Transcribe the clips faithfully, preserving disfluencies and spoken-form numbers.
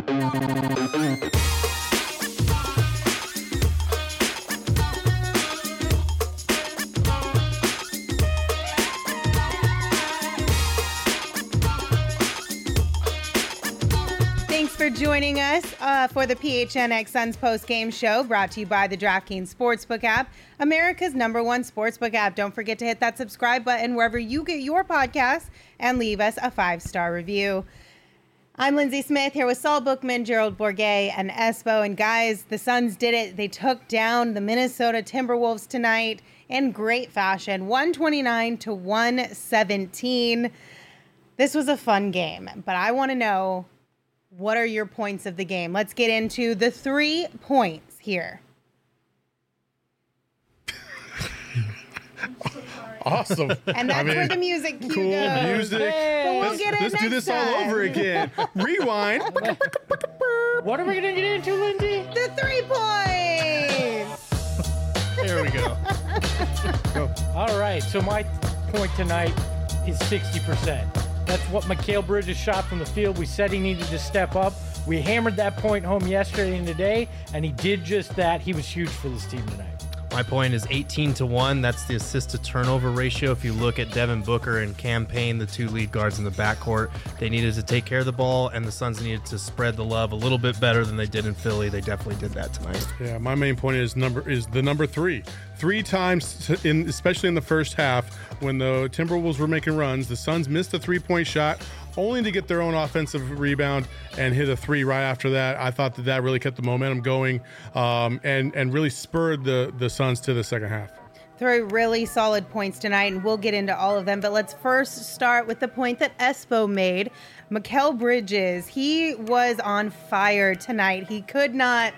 For joining us uh, for the P H N X Suns post-game show, brought to you by the DraftKings Sportsbook app, America's number one sportsbook app. Don't forget to hit that subscribe button wherever you get your podcasts and leave us a five-star review. I'm Lindsay Smith here with Saul Bookman, Gerald Bourguet, and Espo. And guys, the Suns did it. They took down the Minnesota Timberwolves tonight in great fashion, one twenty-nine to one seventeen. This was a fun game, but I want to know, what are your points of the game? Let's get into the three points here. Awesome. And that's I mean, where the music cue cool goes. music. Hey. But we'll let's get it let's next do this time. all over again. Rewind. What are we going to get into, Lindsay? The three points. There we go. Go. All right. So my point tonight is sixty percent. That's what Mikal Bridges shot from the field. We said he needed to step up. We hammered that point home yesterday and today, and he did just that. He was huge for this team tonight. My point is eighteen to one. That's the assist to turnover ratio. If you look at Devin Booker and Cam Payne, the two lead guards in the backcourt, they needed to take care of the ball, and the Suns needed to spread the love a little bit better than they did in Philly. They definitely did that tonight. Yeah, my main point is number is the number three. Three times, in especially in the first half, when the Timberwolves were making runs, the Suns missed a three-point shot, only to get their own offensive rebound and hit a three right after that. I thought that that really kept the momentum going um, and and really spurred the the Suns to the second half. Three really solid points tonight, and we'll get into all of them. But let's first start with the point that Espo made. Mikal Bridges, he was on fire tonight. He could not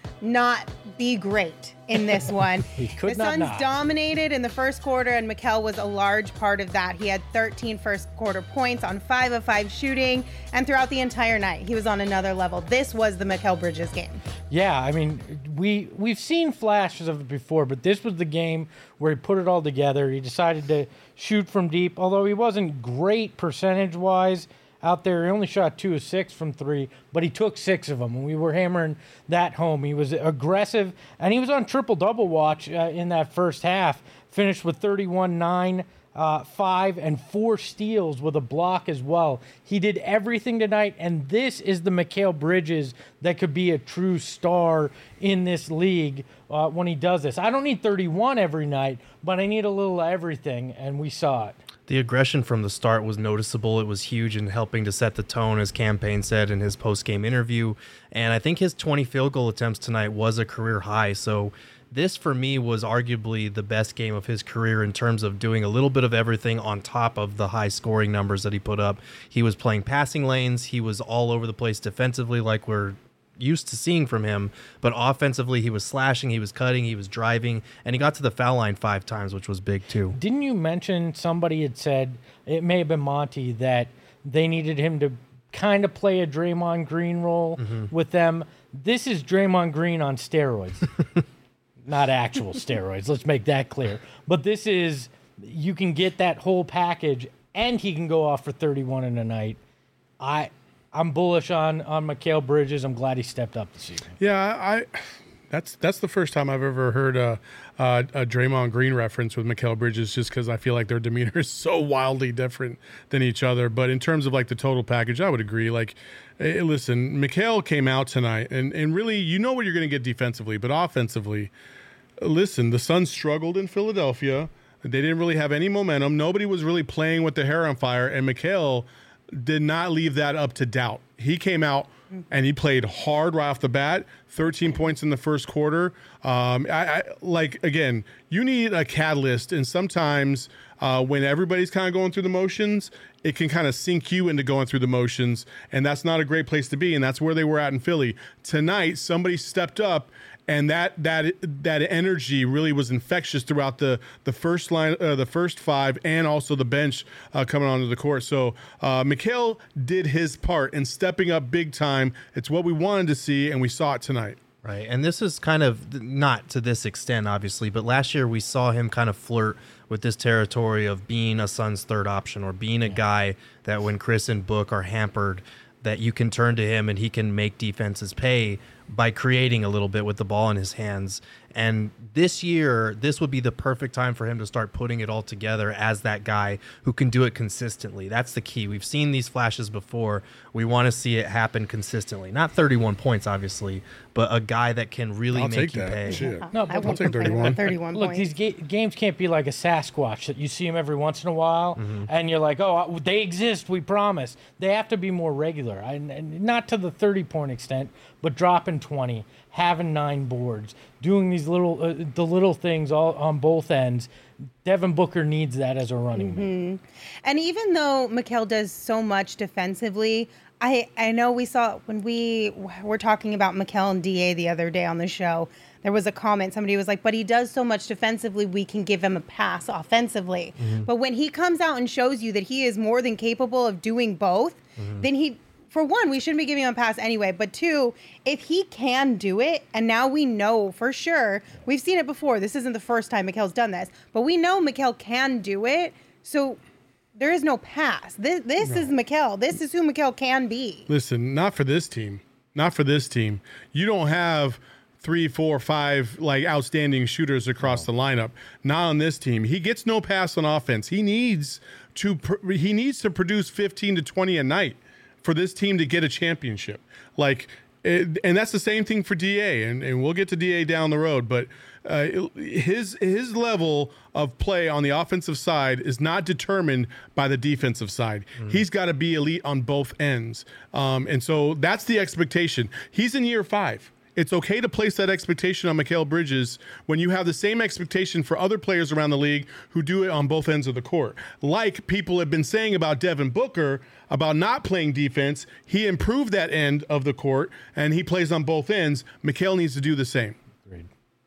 not be great in this one. He could the not Suns not. dominated in the first quarter, and Mikal was a large part of that. He had thirteen first quarter points on five of five shooting, and throughout the entire night, he was on another level. This was the Mikal Bridges game. Yeah, I mean, we, we've seen flashes of it before, but this was the game where he put it all together. He decided to shoot from deep, although he wasn't great percentage-wise out there. He only shot two of six from three, but he took six of them, and we were hammering that home. He was aggressive, and he was on triple-double watch uh, in that first half, finished with thirty-one, nine, uh, five, and four steals with a block as well. He did everything tonight, and this is the Mikal Bridges that could be a true star in this league uh, when he does this. I don't need thirty-one every night, but I need a little of everything, and we saw it. The aggression from the start was noticeable. It was huge in helping to set the tone, as Cam Payne said in his post-game interview. And I think his twenty field goal attempts tonight was a career high. So this, for me, was arguably the best game of his career in terms of doing a little bit of everything on top of the high scoring numbers that he put up. He was playing passing lanes. He was all over the place defensively, like we're used to seeing from him, but offensively he was slashing, he was cutting, he was driving, and he got to the foul line five times, which was big too. Didn't you mention somebody had said, it may have been Monty, that they needed him to kind of play a Draymond Green role mm-hmm. with them? This is Draymond Green on steroids. Not actual steroids, let's make that clear. But this is, you can get that whole package, and he can go off for thirty-one in a night. I I'm bullish on on Mikal Bridges. I'm glad he stepped up this evening. Yeah, I. That's that's the first time I've ever heard a, a, a Draymond Green reference with Mikal Bridges, just because I feel like their demeanor is so wildly different than each other. But in terms of like the total package, I would agree. Like, hey, listen, Mikal came out tonight, and and really, you know what you're going to get defensively, but offensively, listen, the Suns struggled in Philadelphia. They didn't really have any momentum. Nobody was really playing with the hair on fire, and Mikal did not leave that up to doubt. He came out and he played hard right off the bat. thirteen points in the first quarter. Um, I, I like again. You need a catalyst, and sometimes uh, when everybody's kind of going through the motions, it can kind of sink you into going through the motions, and that's not a great place to be. And that's where they were at in Philly tonight. Somebody stepped up. And that that that energy really was infectious throughout the the first line, uh, the first five, and also the bench uh, coming onto the court. So uh, Mikal did his part in stepping up big time. It's what we wanted to see, and we saw it tonight. Right, and this is kind of not to this extent, obviously, but last year we saw him kind of flirt with this territory of being a Suns' third option, or being a guy that when Chris and Book are hampered, that you can turn to him and he can make defenses pay by creating a little bit with the ball in his hands. And this year, this would be the perfect time for him to start putting it all together as that guy who can do it consistently. That's the key. We've seen these flashes before. We want to see it happen consistently. Not thirty-one points, obviously, but a guy that can really I'll make take you that. pay. Shit. No, I but won't take complain about thirty-one. thirty-one Look, points. these ga- games can't be like a Sasquatch that you see them every once in a while, Mm-hmm. and you're like, oh, they exist, we promise. They have to be more regular, I, and not to the thirty-point extent, but dropping twenty, having nine boards, doing these little, uh, the little things all on both ends. Devin Booker needs that as a running Mm-hmm. mate. And even though Mikal does so much defensively, I, I know we saw when we were talking about Mikal and D A the other day on the show, there was a comment. Somebody was like, but he does so much defensively, we can give him a pass offensively. Mm-hmm. But when he comes out and shows you that he is more than capable of doing both, Mm-hmm. then he, for one, we shouldn't be giving him a pass anyway. But two, if he can do it, and now we know for sure, we've seen it before. This isn't the first time Mikal's done this, but we know Mikal can do it. So there is no pass. This, this is Mikal. This is who Mikal can be. Listen, not for this team. Not for this team. You don't have three, four, five like outstanding shooters across the lineup. Not on this team. He gets no pass on offense. He needs to pr- he needs to produce fifteen to twenty a night for this team to get a championship. Like, it, and that's the same thing for D A, and, and we'll get to D A down the road. But uh, his his level of play on the offensive side is not determined by the defensive side. Mm. He's got to be elite on both ends, um, and so that's the expectation. He's in year five. It's okay to place that expectation on Mikal Bridges when you have the same expectation for other players around the league who do it on both ends of the court. Like people have been saying about Devin Booker, about not playing defense, he improved that end of the court, and he plays on both ends. Mikal needs to do the same. Agreed.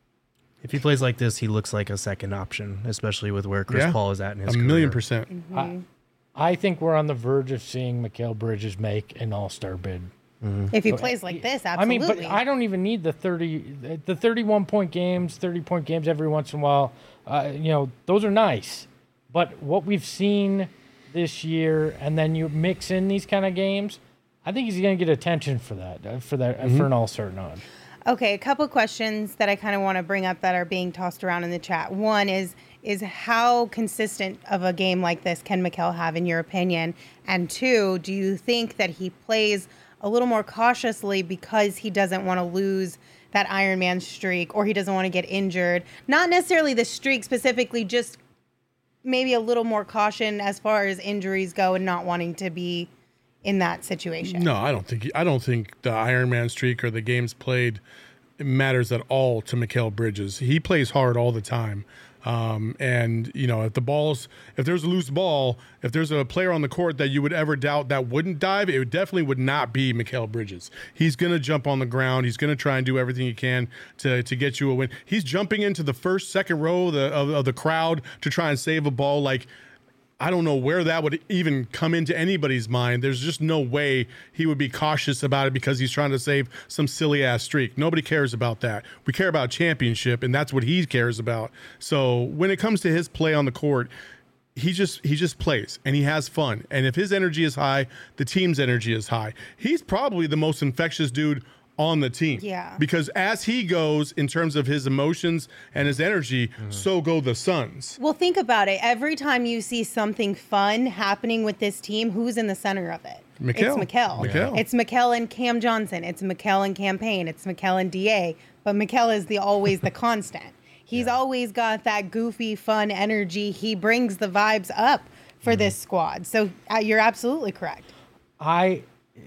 If he plays like this, he looks like a second option, especially with where Chris Yeah. Paul is at in his A career. million percent. I, I think we're on the verge of seeing Mikal Bridges make an all-star bid. If he plays like this, I mean, absolutely. but I don't even need the thirty, the thirty-one point games, thirty point games every once in a while. Uh, you know, those are nice. But what we've seen this year, and then you mix in these kind of games, I think he's going to get attention for that, uh, for that, uh, for an all-star nod. Okay, a couple questions that I kind of want to bring up that are being tossed around in the chat. One is is how consistent of a game like this can Mikal have, in your opinion? And two, do you think that he plays a little more cautiously because he doesn't want to lose that Iron Man streak, or he doesn't want to get injured? Not necessarily the streak specifically, just maybe a little more caution as far as injuries go and not wanting to be in that situation. No, I don't think I don't think the Iron Man streak or the games played matters at all to Mikal Bridges. He plays hard all the time. Um, and, you know, if the ball's, if there's a loose ball, if there's a player on the court that you would ever doubt that wouldn't dive, it would definitely would not be Mikal Bridges. He's going to jump on the ground. He's going to try and do everything he can to, to get you a win. He's jumping into the first, second row of the, of, of the crowd to try and save a ball. Like, I don't know where that would even come into anybody's mind. There's just no way he would be cautious about it because he's trying to save some silly ass streak. Nobody cares about that. We care about championship, and that's what he cares about. So when it comes to his play on the court, he just he just plays and he has fun. And if his energy is high, the team's energy is high. He's probably the most infectious dude on the team. Yeah. Because as he goes in terms of his emotions and his energy, mm-hmm. so go the Suns. Well, think about it. Every time you see something fun happening with this team, who's in the center of it? Mikal. It's Mikal. Mikal. It's Mikal and Cam Johnson. It's Mikal and Cam Payne. It's Mikal and D A. But Mikal is the always the constant. He's yeah. always got that goofy, fun energy. He brings the vibes up for mm-hmm. this squad. So uh, you're absolutely correct. I...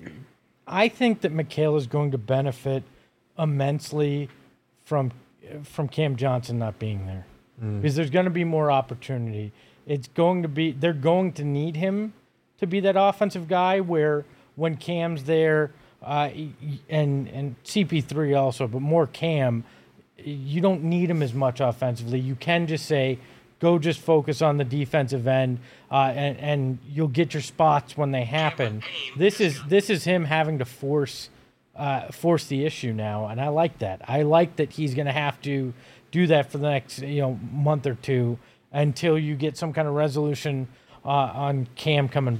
I think that Mikal is going to benefit immensely from from Cam Johnson not being there, mm. because there's going to be more opportunity. It's going to be they're going to need him to be that offensive guy where when Cam's there, uh, and and C P three also, but more Cam, you don't need him as much offensively. You can just say, go just focus on the defensive end, uh, and, and you'll get your spots when they happen. This is this is him having to force uh, force the issue now, and I like that. I like that he's going to have to do that for the next you know month or two until you get some kind of resolution uh, on Cam coming back.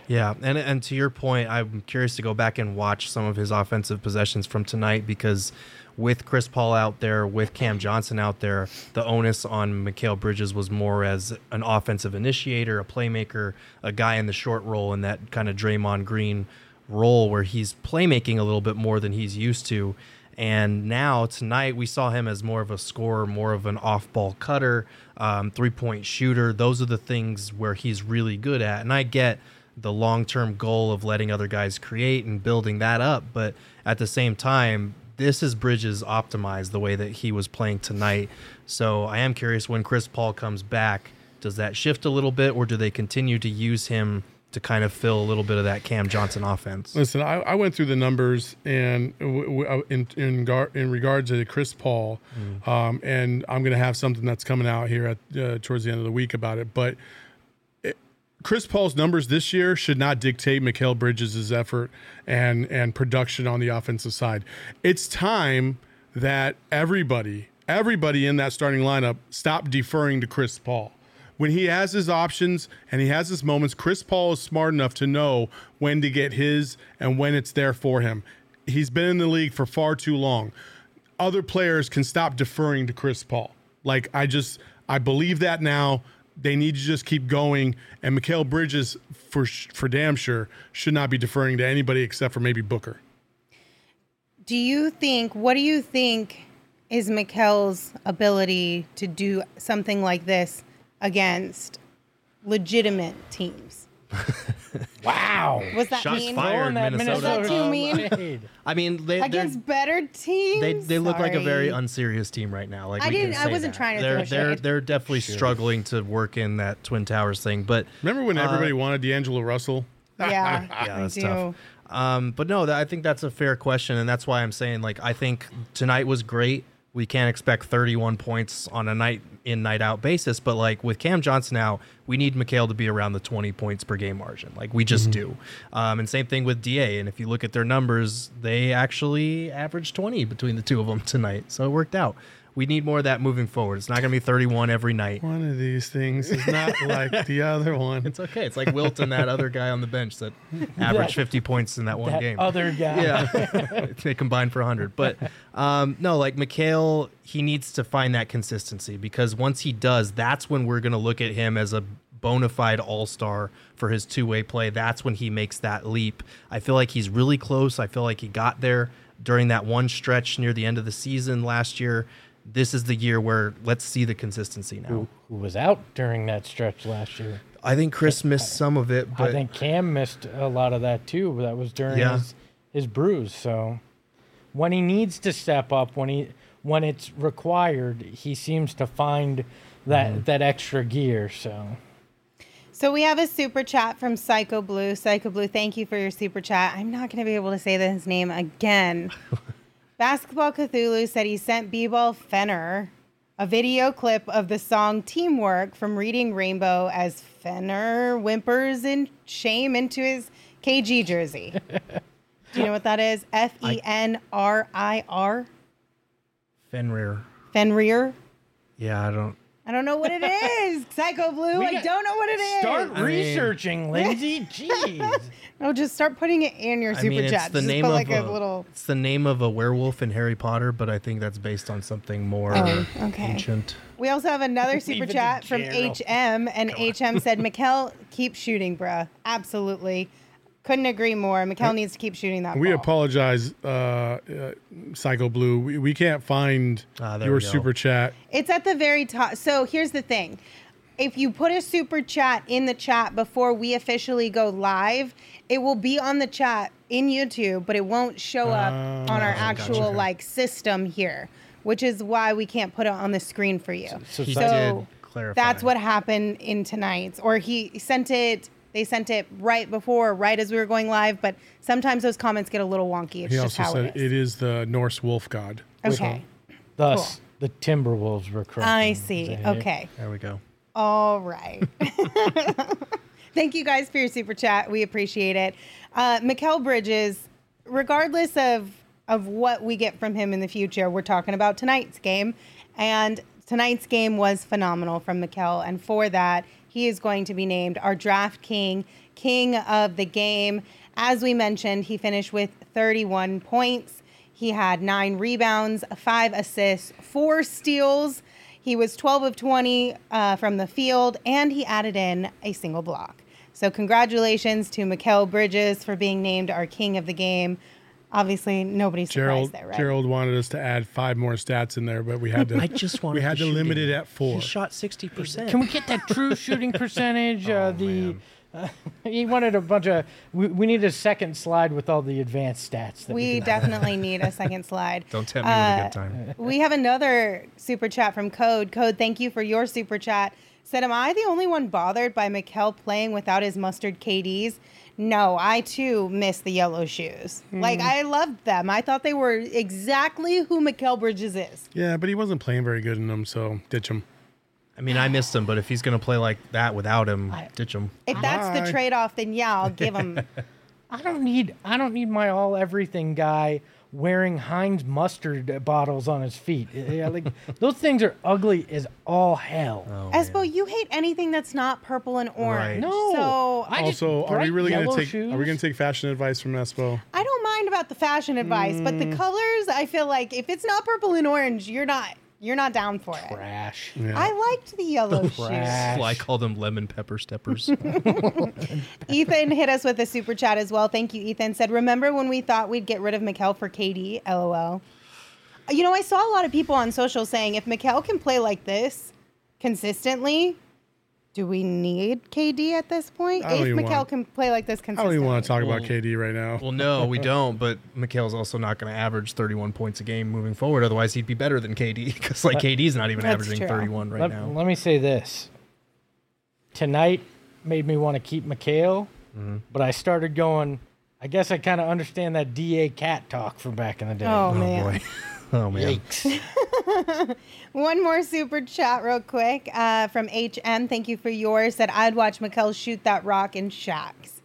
Yeah, and and to your point, I'm curious to go back and watch some of his offensive possessions from tonight because with Chris Paul out there, with Cam Johnson out there, the onus on Mikal Bridges was more as an offensive initiator, a playmaker, a guy in the short role in that kind of Draymond Green role where he's playmaking a little bit more than he's used to. And now tonight we saw him as more of a scorer, more of an off-ball cutter, um, three-point shooter. Those are the things where he's really good at. And I get the long-term goal of letting other guys create and building that up. But at the same time, this is Bridges optimized the way that he was playing tonight. So I am curious when Chris Paul comes back, does that shift a little bit or do they continue to use him to kind of fill a little bit of that Cam Johnson offense? Listen, I, I went through the numbers and w- w- in in, gar- in regards to Chris Paul, mm. um, and I'm going to have something that's coming out here at uh, towards the end of the week about it. But it, Chris Paul's numbers this year should not dictate Mikal Bridges' effort and and production on the offensive side. It's time that everybody, everybody in that starting lineup stop deferring to Chris Paul. When he has his options and he has his moments, Chris Paul is smart enough to know when to get his and when it's there for him. He's been in the league for far too long. Other players can stop deferring to Chris Paul. Like, I just, I believe that now. They need to just keep going. And Mikal Bridges, for for damn sure, should not be deferring to anybody except for maybe Booker. Do you think, what do you think is Mikal's ability to do something like this against legitimate teams? Wow. Was that Shots mean? fired, that Minnesota. Was that too mean? I mean, they Against better teams? they they look like a very Sorry. unserious team right now. Like I we can didn't. I say wasn't that. trying to they're, throw They're shade. they're definitely struggling to work in that Twin Towers thing. But Remember when Uh, everybody wanted D'Angelo Russell? Yeah, yeah, I that's do. tough. Um, but no, that, I think that's a fair question, and that's why I'm saying, like, I think tonight was great. We can't expect thirty-one points on a night in, night out basis, but like with Cam Johnson now, we need Mikal to be around the twenty points per game margin. Like we just mm-hmm. do. Um, and same thing with D A. And if you look at their numbers, they actually averaged twenty between the two of them tonight. So it worked out. We need more of that moving forward. It's not going to be thirty-one every night. One of these things is not like the other one. It's okay. It's like Wilt and that other guy on the bench that averaged fifty points in that one That game. other guy. Yeah, they combined for one hundred. But um, no, like Mikal, he needs to find that consistency because once he does, that's when we're going to look at him as a bona fide all-star for his two-way play. That's when he makes that leap. I feel like he's really close. I feel like he got there during that one stretch near the end of the season last year. This is the year where let's see the consistency now. Who, who was out during that stretch last year? I think Chris missed some of it, but I think Cam missed a lot of that too. That was during Yeah. his, his bruise. So when he needs to step up, when he when it's required, he seems to find that Mm-hmm. that extra gear. So So we have a super chat from Psycho Blue. Psycho Blue, thank you for your super chat. I'm not going to be able to say his name again. Basketball Cthulhu said he sent B-Ball Fenner a video clip of the song Teamwork from Reading Rainbow as Fenner whimpers in shame into his K G jersey. Do you know what that is? F E N R I R? Fenrir. Fenrir? Yeah, I don't. I don't know what it is. Psycho Blue, We I got- don't know what it is. start I mean- researching, Lindsay. Jeez. No, just start putting it in your I super mean, it's chat. the Just name put of like a, a, little. It's the name of a werewolf in Harry Potter, but I think that's based on something more Oh, okay. ancient. We also have another super Leave it to chat from Gerald. H M, and H M said, Mikal, keep shooting, bruh. Absolutely. Couldn't agree more. Mikal needs to keep shooting that We ball. apologize, uh, uh, Psycho Blue. We, we can't find Ah, there your we go. super chat. It's at the very top. So here's the thing. If you put a super chat in the chat before we officially go live, it will be on the chat in YouTube, but it won't show up on our actual gotcha. like system here, which is why we can't put it on the screen for you. So He So did clarify. that's what happened in tonight's, or he sent it. They sent it right before, right as we were going live. But sometimes those comments get a little wonky. It's He just also how said it is. it is the Norse wolf god. Okay, Thus, Cool. the Timberwolves were correct. I see. Okay, There we go. all right. Thank you guys for your super chat. We appreciate it. Uh, Mikal Bridges, regardless of of what we get from him in the future, we're talking about tonight's game, and tonight's game was phenomenal from Mikal, and for that, he is going to be named our Draft King, King of the Game. As we mentioned, he finished with thirty-one points. He had nine rebounds, five assists, four steals. He was twelve of twenty uh, from the field, and he added in a single block. So congratulations to Mikal Bridges for being named our King of the Game. Obviously, nobody's surprised Gerald, there, right? Gerald wanted us to add five more stats in there, but we had to. I just wanted we had the to limit shooting. it at four. He shot sixty percent. Can we get that true shooting percentage? uh, the uh, he wanted a bunch of. We, we need a second slide with all the advanced stats. That we We can- definitely need a second slide. Don't tempt me with a good time. We have another super chat from Code. Code, thank you for your super chat. Said, am I the only one bothered by Mikal playing without his mustard K Ds? No, I too miss the yellow shoes. Mm. Like, I loved them. I thought they were exactly who Mikal Bridges is. Yeah, but he wasn't playing very good in them, so ditch him. I mean, I missed him, but if he's going to play like that without him, I- ditch him. If that's Bye. the trade-off, then yeah, I'll give him. I don't need. I don't need my all everything guy wearing Heinz mustard bottles on his feet. Yeah, like those things are ugly as all hell. Oh, Espo, man. you hate anything that's not purple and orange. Right. No. So I just- Also, are we bright really going to yellow take? shoes? Are we going to take fashion advice from Espo? I don't mind about the fashion advice, but Mm. the colors, I feel like if it's not purple and orange, you're not you're not down for it. Trash. Yeah. I liked the yellow shoes. Trash. Well, I call them lemon pepper steppers. Ethan hit us with a super chat as well. Thank you, Ethan. Said, remember when we thought we'd get rid of Mikal for K D? LOL. You know, I saw a lot of people on social saying if Mikal can play like this consistently, do we need K D at this point? I don't If even Mikal want- can play like this I consistently. don't even want to talk about Well- K D right now. Well, no, we don't. But Mikhail's also not going to average thirty-one points a game moving forward. Otherwise, he'd be better than K D because like K D's not even That's averaging true. thirty-one right let, now. let me say this. Tonight made me want to keep Mikal, Mm-hmm. but I started going. I guess I kind of understand that D A cat talk from back in the day. Oh, Oh man. boy. Oh man. Yikes. One more super chat real quick uh, from H M. Thank you for yours. Said, I'd watch Mikal shoot that rock in Shaq's.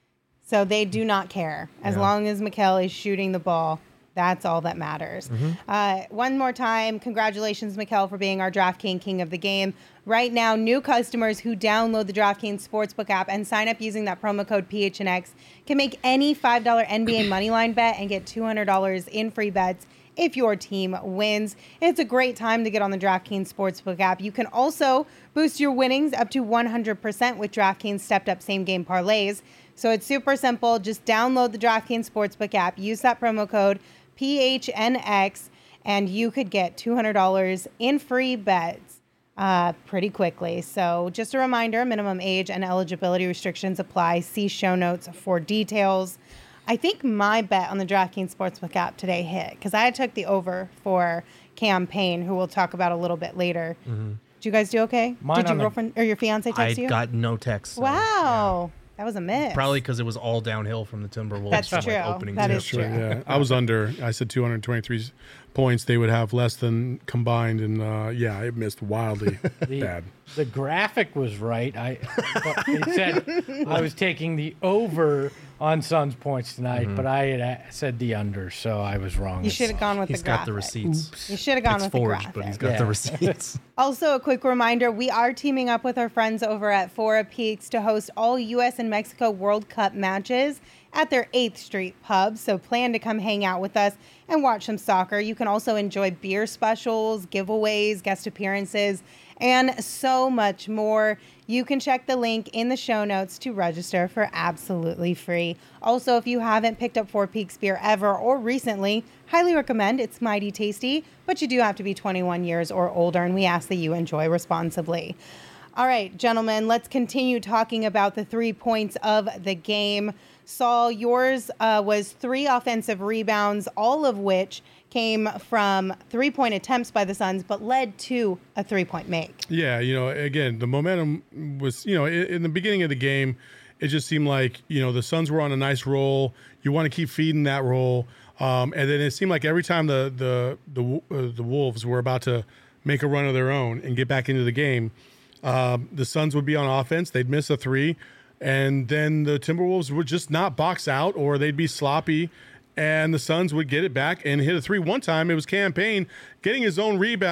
So they do not care. As Yeah. long as Mikal is shooting the ball, that's all that matters. Uh, one more time, congratulations, Mikal, for being our DraftKings King of the Game. Right now, new customers who download the DraftKings Sportsbook app and sign up using that promo code P H N X can make any five dollar N B A Moneyline bet and get two hundred dollars in free bets if your team wins. It's a great time to get on the DraftKings Sportsbook app. You can also boost your winnings up to one hundred percent with DraftKings stepped up same game parlays. So it's super simple. Just download the DraftKings Sportsbook app, use that promo code P H N X, and you could get two hundred dollars in free bets uh, pretty quickly. So just a reminder, minimum age and eligibility restrictions apply. See show notes for details. I think my bet on the DraftKings Sportsbook app today hit because I took the over for Campaign, who we'll talk about a little bit later. Did you guys do okay? Mine Did your on the- girlfriend or your fiance I text you? got no text. so, Wow, that was a miss. Probably because it was all downhill from the Timberwolves. That's from, like, true. opening That tip. is Sure, true. yeah. I was under. I said two hundred twenty-three points. They would have less than combined, and uh, yeah, it missed wildly The, bad. the graphic was right. I but it said I was taking the over on Suns points tonight, but I had uh, said the under, so I was wrong. You should have gone with He's the got graphic. the receipts. You should have gone It's with forged, the graphic. but he's got Yeah. the receipts. Also, a quick reminder, we are teaming up with our friends over at Fora Peaks to host all U S and Mexico World Cup matches at their eighth Street pub. So plan to come hang out with us and watch some soccer. You can also enjoy beer specials, giveaways, guest appearances, and so much more. You can check the link in the show notes to register for absolutely free. Also, if you haven't picked up Four Peaks beer ever or recently, highly recommend. It's mighty tasty, but you do have to be twenty-one years or older, and we ask that you enjoy responsibly. All right, gentlemen, let's continue talking about the three points of the game. Saul, yours uh, was three offensive rebounds, all of which came from three-point attempts by the Suns, but led to a three-point make. Yeah, you know, again, the momentum was, you know, in, in the beginning of the game, it just seemed like, you know, the Suns were on a nice roll. You want to keep feeding that roll. Um, and then it seemed like every time the the the, uh, the Wolves were about to make a run of their own and get back into the game, um, the Suns would be on offense. They'd miss a three. And then the Timberwolves would just not box out, or they'd be sloppy. And the Suns would get it back and hit a three. One time it was Campaign getting his own rebound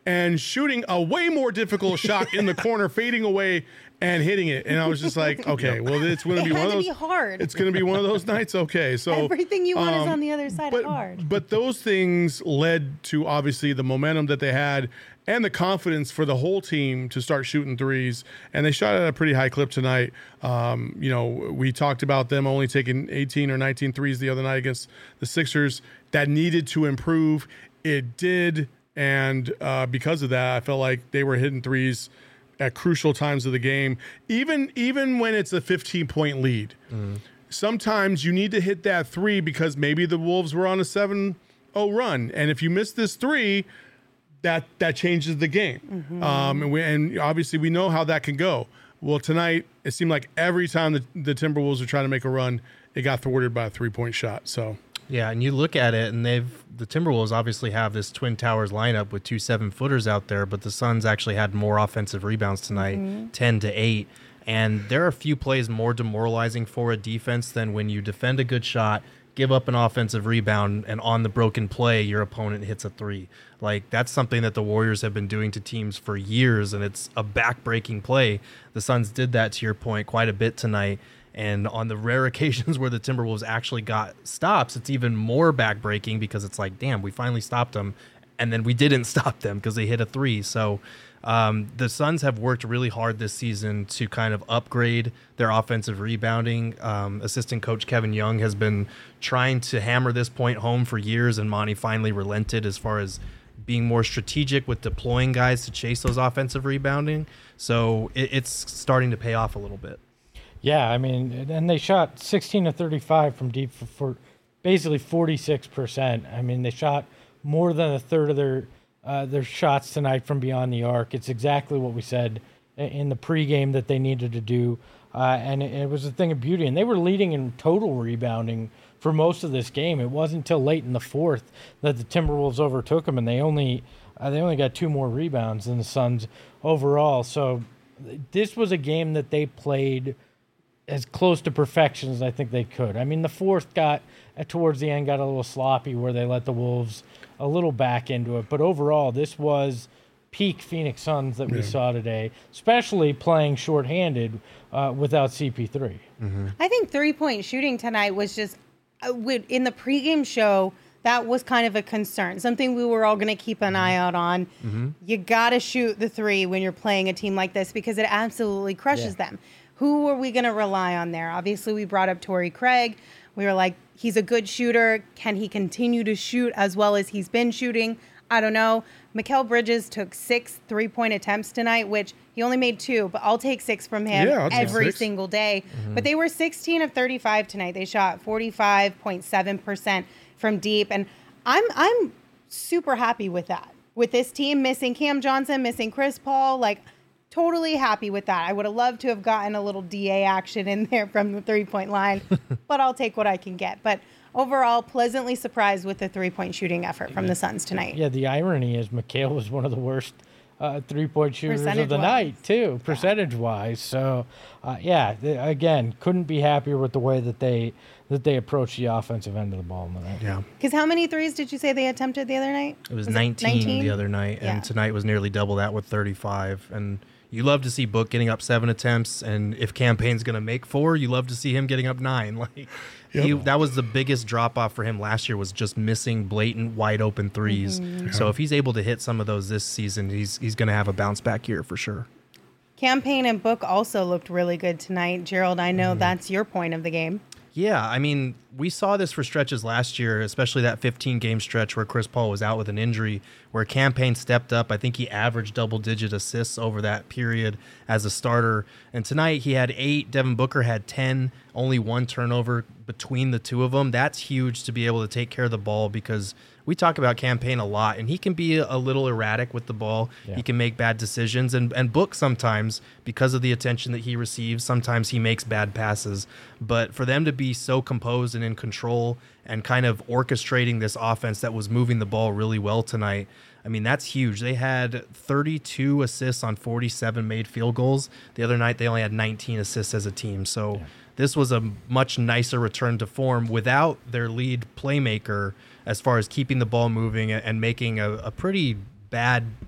and shooting a way more difficult shot in the corner, fading away and hitting it. And I was just like, okay, well, it's going to It be one had of to those. be hard. It's going to be one of those nights. Okay, so Everything you want is um, on the other side but, hard. But those things led to obviously the momentum that they had and the confidence for the whole team to start shooting threes. And they shot at a pretty high clip tonight. Um, you know, we talked about them only taking eighteen or nineteen threes the other night against the Sixers. That needed to improve. It did. And uh, because of that, I felt like they were hitting threes at crucial times of the game, even even when it's a fifteen-point lead. Mm. Sometimes you need to hit that three because maybe the Wolves were on a seven oh run. And if you miss this three, that that changes the game. Mm-hmm. Um, and, we, and obviously we know how that can go. Well, tonight, it seemed like every time the, the Timberwolves were trying to make a run, it got thwarted by a three-point shot. So... Yeah, and you look at it, and they've the Timberwolves obviously have this Twin Towers lineup with two seven-footers out there, but the Suns actually had more offensive rebounds tonight, mm-hmm. ten to eight. And there are a few plays more demoralizing for a defense than when you defend a good shot, give up an offensive rebound, and on the broken play, your opponent hits a three. Like, that's something that the Warriors have been doing to teams for years, and it's a back-breaking play. The Suns did that, to your point, quite a bit tonight. And on the rare occasions where the Timberwolves actually got stops, it's even more backbreaking because it's like, damn, we finally stopped them. And then we didn't stop them because they hit a three. So um, the Suns have worked really hard this season to kind of upgrade their offensive rebounding. Um, assistant coach Kevin Young has been trying to hammer this point home for years, and Monty finally relented as far as being more strategic with deploying guys to chase those offensive rebounding. So it, it's starting to pay off a little bit. Yeah, I mean, and they shot sixteen to thirty-five from deep for, for basically forty-six percent. I mean, they shot more than a third of their uh, their shots tonight from beyond the arc. It's exactly what we said in the pregame that they needed to do, uh, and it, it was a thing of beauty. And they were leading in total rebounding for most of this game. It wasn't until late in the fourth that the Timberwolves overtook them, and they only uh, they only got two more rebounds than the Suns overall. So this was a game that they played as close to perfection as I think they could. I mean, the fourth got, uh, towards the end, got a little sloppy where they let the Wolves a little back into it. But overall, this was peak Phoenix Suns that we yeah. saw today, especially playing shorthanded uh, without C P three. Mm-hmm. I think three-point shooting tonight was just, uh, in the pregame show, that was kind of a concern, something we were all going to keep an eye out on. Mm-hmm. You got to shoot the three when you're playing a team like this because it absolutely crushes yeah. them. Who are we going to rely on there? Obviously, we brought up Torrey Craig. We were like, he's a good shooter. Can he continue to shoot as well as he's been shooting? I don't know. Mikal Bridges took six three-point attempts tonight, which he only made two, but I'll take six from him yeah, every single day. Mm-hmm. But they were sixteen of thirty-five tonight. They shot forty-five point seven percent from deep, and I'm I'm super happy with that. With this team missing Cam Johnson, missing Chris Paul, like, totally happy with that. I would have loved to have gotten a little D A action in there from the three-point line, but I'll take what I can get. But overall, pleasantly surprised with the three-point shooting effort from the Suns tonight. Yeah, the irony is Mikal was one of the worst uh, three-point shooters of the night, too, percentage-wise. So, uh, yeah, they, again, couldn't be happier with the way that they that they approached the offensive end of the ball tonight. Yeah. Because how many threes did you say they attempted the other night? It was, was nineteen, it nineteen the other night, and yeah. tonight was nearly double that with thirty-five. And you love to see Book getting up seven attempts, and if Campaign's going to make four, you love to see him getting up nine. Like yep. he, that was the biggest drop-off for him last year, was just missing blatant, wide-open threes. Mm-hmm. So if he's able to hit some of those this season, he's he's going to have a bounce-back year for sure. Campaign and Book also looked really good tonight. Gerald, I know mm-hmm. that's your point of the game. Yeah, I mean, we saw this for stretches last year, especially that fifteen-game stretch where Chris Paul was out with an injury, where Campaign stepped up. I think he averaged double-digit assists over that period as a starter. And tonight he had eight. Devin Booker had ten, only one turnover between the two of them. That's huge to be able to take care of the ball, because we talk about Campaign a lot, and he can be a little erratic with the ball. Yeah. He can make bad decisions, and, and Book sometimes, because of the attention that he receives, sometimes he makes bad passes. But for them to be so composed and in control and kind of orchestrating this offense that was moving the ball really well tonight, I mean, that's huge. They had thirty-two assists on forty-seven made field goals. The other night, they only had nineteen assists as a team. So yeah. this was a much nicer return to form without their lead playmaker, as far as keeping the ball moving and making a, a pretty bad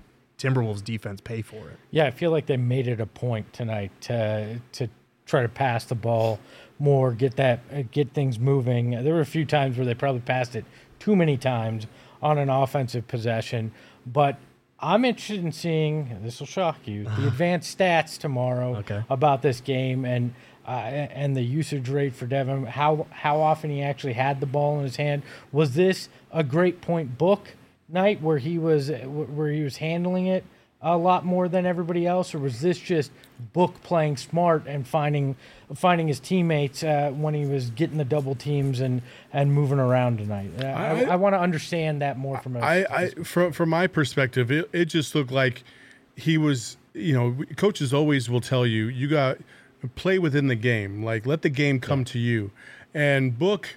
Timberwolves defense pay for it. Yeah, I feel like they made it a point tonight to to try to pass the ball more, get that uh, get things moving. There were a few times where they probably passed it too many times on an offensive possession, but I'm interested in seeing, this will shock you, the advanced stats tomorrow Okay. about this game and uh, and the usage rate for Devin, how how often he actually had the ball in his hand. Was this a great point book night where he was where he was handling it a lot more than everybody else, or was this just book playing smart and finding finding his teammates uh, when he was getting the double teams and, and moving around tonight? Uh, I, I, I want to understand that more from a I, I from from my perspective, it, it just looked like he was. You know, coaches always will tell you you got play within the game, like let the game come yeah. to you. And Book,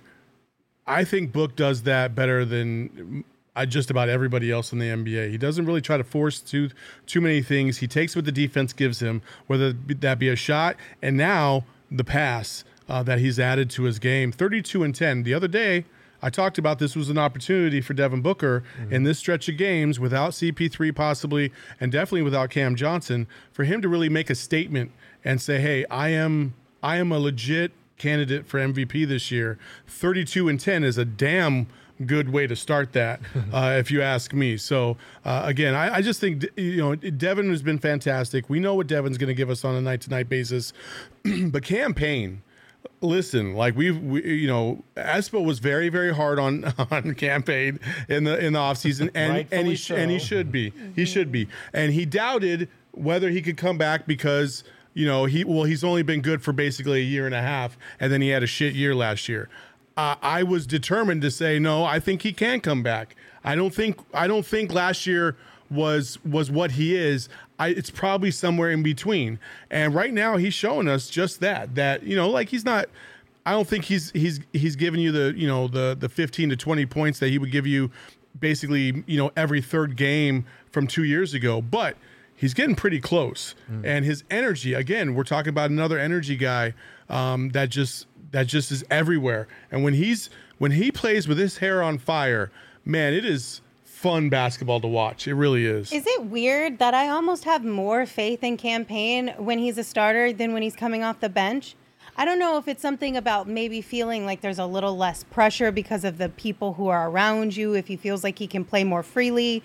I think Book does that better than I just about everybody else in the N B A. He doesn't really try to force too too many things. He takes what the defense gives him, whether that be a shot, and now the pass uh, that he's added to his game. thirty-two and ten. The other day, I talked about this was an opportunity for Devin Booker mm-hmm. in this stretch of games without C P three possibly, and definitely without Cam Johnson, for him to really make a statement and say, hey, I am I am a legit candidate for M V P this year. thirty-two and ten is a damn good way to start that, uh, if you ask me. So, uh, again, I, I just think, you know, Devin has been fantastic. We know what Devin's going to give us on a night-to-night basis. But Cam Payne, listen, like we've, we, you know, Espo was very, very hard on on Cam Payne in the in the offseason, and and he so. and he should be, he should be, and he doubted whether he could come back because, you know, he well he's only been good for basically a year and a half, and then he had a shit year last year. Uh, I was determined to say no. I think he can come back. I don't think I don't think last year was was what he is. I, it's probably somewhere in between. And right now he's showing us just that. That you know, like he's not. I don't think he's he's he's giving you the you know the the fifteen to twenty points that he would give you basically you know every third game from two years ago. But he's getting pretty close. Mm. And his energy, again, we're talking about another energy guy um, that just. That just is everywhere. And when he's when he plays with his hair on fire, man, it is fun basketball to watch. It really is. Is it weird that I almost have more faith in Cam Payne when he's a starter than when he's coming off the bench? I don't know if it's something about maybe feeling like there's a little less pressure because of the people who are around you, if he feels like he can play more freely.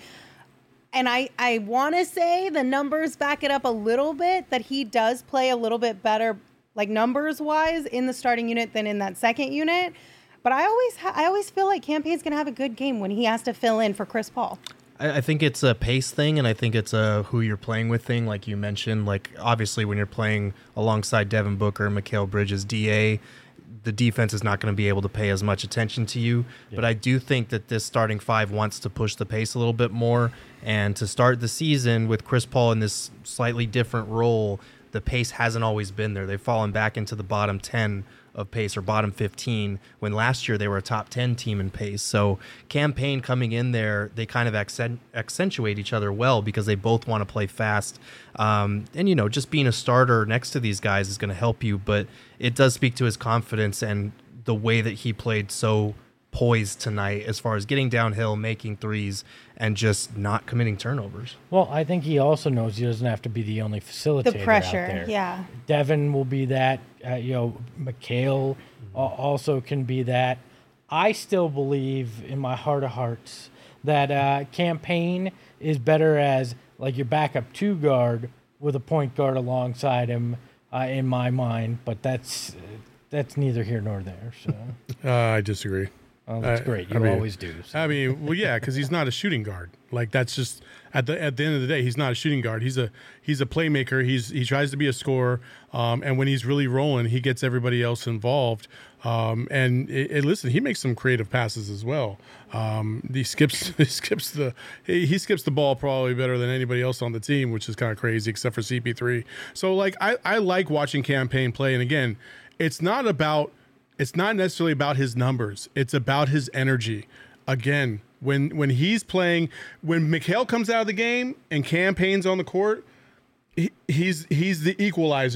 And I, I want to say the numbers back it up a little bit, that he does play a little bit better like numbers wise in the starting unit than in that second unit. But I always ha- I always feel like Cam Payne's going to have a good game when he has to fill in for Chris Paul. I, I think it's a pace thing, and I think it's a who you're playing with thing, like you mentioned. Like, obviously, when you're playing alongside Devin Booker, Mikal Bridges, D A, the defense is not going to be able to pay as much attention to you. Yeah. But I do think that this starting five wants to push the pace a little bit more. And to start the season with Chris Paul in this slightly different role, the pace hasn't always been there. They've fallen back into the bottom ten of pace, or bottom fifteen, when last year they were a top ten team in pace. So Cam Payne coming in there, they kind of accent, accentuate each other well because they both want to play fast. Um, and, you know, just being a starter next to these guys is going to help you, but it does speak to his confidence and the way that he played so poised tonight as far as getting downhill, making threes, and just not committing turnovers. Well, I think he also knows he doesn't have to be the only facilitator. The pressure, out there. yeah. Devin will be that. Uh, you know, Mikal mm-hmm. also can be that. I still believe in my heart of hearts that uh, Cam Payne is better as like your backup two guard with a point guard alongside him, uh, in my mind. But that's that's neither here nor there. So uh, I disagree. Oh, that's uh, great. You I mean, always do. So. I mean, well, yeah, because he's not a shooting guard. Like that's just at the at the end of the day, he's not a shooting guard. He's a he's a playmaker. He's he tries to be a scorer, um, and when he's really rolling, he gets everybody else involved. Um, and it, it, listen, he makes some creative passes as well. Um, he skips he skips the he, he skips the ball probably better than anybody else on the team, which is kind of crazy, except for C P three. So like I I like watching Cam Payne play, and again, it's not about. It's not necessarily about his numbers. It's about his energy. Again, when when he's playing, when Mikal comes out of the game and Cam Payne's on the court, he, he's he's the equalizer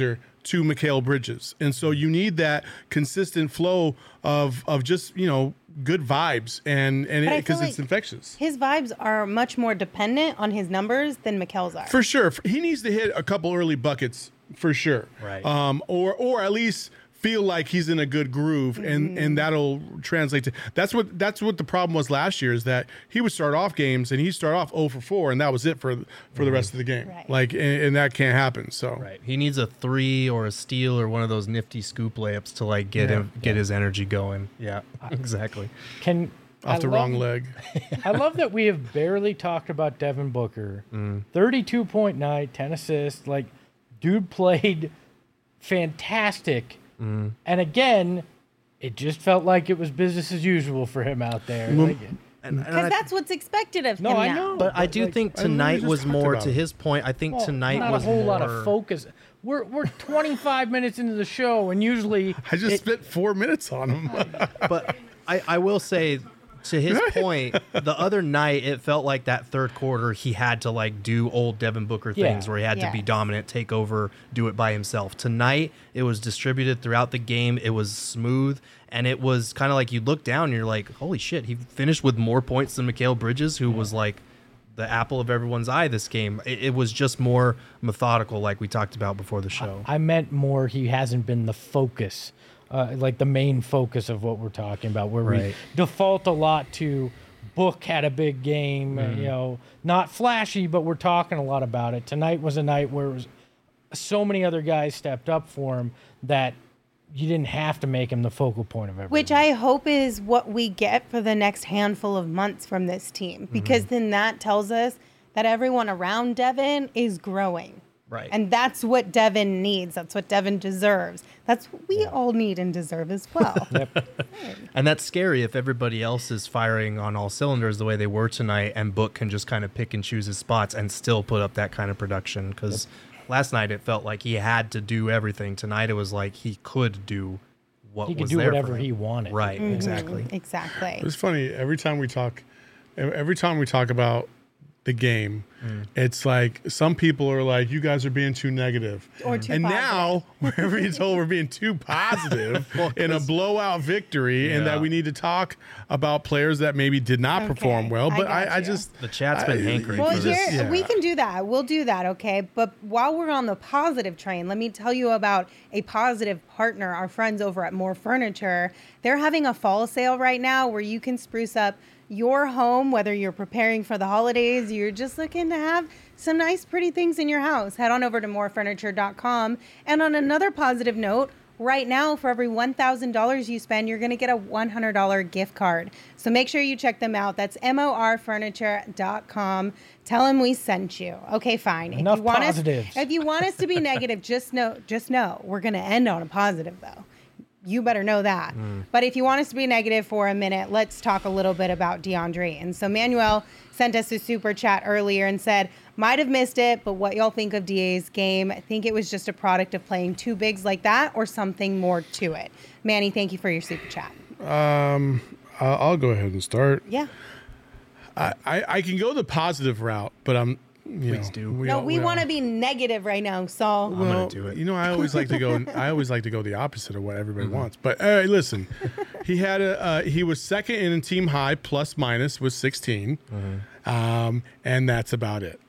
to Mikal Bridges. And so you need that consistent flow of of just, you know, good vibes and and But I because feel it's like infectious. His vibes are much more dependent on his numbers than Mikel's are. For sure. He needs to hit a couple early buckets for sure. Right. Um, or or at least feel like he's in a good groove, and Mm-hmm. and that'll translate to that's what that's what the problem was last year, is that he would start off games and he start off oh for four, and that was it for for the rest of the game. Right. Like and, and that can't happen. So Right. He needs a three or a steal or one of those nifty scoop layups to like get Yeah. him get his energy going. Yeah. Exactly. Can off I the love- wrong leg. I love that we have barely talked about Devin Booker. Mm. thirty-two point night, ten assists. Like, dude played fantastic. Mm. And again, it just felt like it was business as usual for him out there. Mm. Like, And, and Because I- that's what's expected of no, him I now. know. but I do like, think I literally tonight just was talked more about to it. his point. I think well, tonight not was a whole more lot of focus. We're we're twenty-five minutes into the show, and usually I just it- spent four minutes on him. But I, I will say, to his point, the other night it felt like that third quarter he had to like do old Devin Booker Yeah. things where he had to be Yes. dominant, take over, do it by himself. Tonight it was distributed throughout the game. It was smooth, and it was kind of like you look down and you're like, holy shit, he finished with more points than Mikal Bridges, who was like the apple of everyone's eye this game. It, it was just more methodical, like we talked about before the show. I meant more he hasn't been the focus, uh, like the main focus of what we're talking about, where we Right. default a lot to Book had a big game, uh, you know, not flashy, but we're talking a lot about it. Tonight was a night where it was so many other guys stepped up for him that you didn't have to make him the focal point of everything. Which I hope is what we get for the next handful of months from this team, because then that tells us that everyone around Devin is growing. Right. And that's what Devin needs. That's what Devin deserves. That's what we all need and deserve as well. And that's scary if everybody else is firing on all cylinders the way they were tonight, and Book can just kind of pick and choose his spots and still put up that kind of production. Because last night it felt like he had to do everything. Tonight it was like he could do what he could was do there for whatever him. he wanted. Right, exactly. Exactly. It's funny every time we talk, every time we talk about the game, it's like some people are like, "You guys are being too negative," Or too and positive. now we're being told we're being too positive in a blowout victory, and that Yeah. we need to talk about players that maybe did not Okay, perform well. I But I, got I you. just The chat's been I- hankering Well, for here this. Yeah. we can do that. We'll do that, okay? But while we're on the positive train, let me tell you about a positive partner, our friends over at More Furniture. They're having a fall sale right now where you can spruce up your home, whether you're preparing for the holidays, you're just looking to have some nice, pretty things in your house. Head on over to more furniture dot com. And on another positive note, right now, for every one thousand dollars you spend, you're going to get a one hundred dollars gift card. So make sure you check them out. That's more furniture dot com. Tell them we sent you. Okay, fine. Enough if you want positives. Us, if you want us to be negative, just know, just know we're going to end on a positive, though. You better know that. But if you want us to be negative for a minute, let's talk a little bit about DeAndre. And so Manuel sent us a super chat earlier and said, might have missed it, but what y'all think of D A's game? I think it was just a product of playing two bigs like that or something more to it. Manny, thank you for your super chat. um, I'll, I'll go ahead and start. Yeah. I, I, I can go the positive route, but I'm. You Please know, do. No, all- we all- want to be negative right now, Saul. I'm gonna Well, do it. You know, I always like to go. I always like to go the opposite of what everybody wants. But uh, listen, he had a. Uh, he was second in team high plus minus was sixteen, um, and that's about it.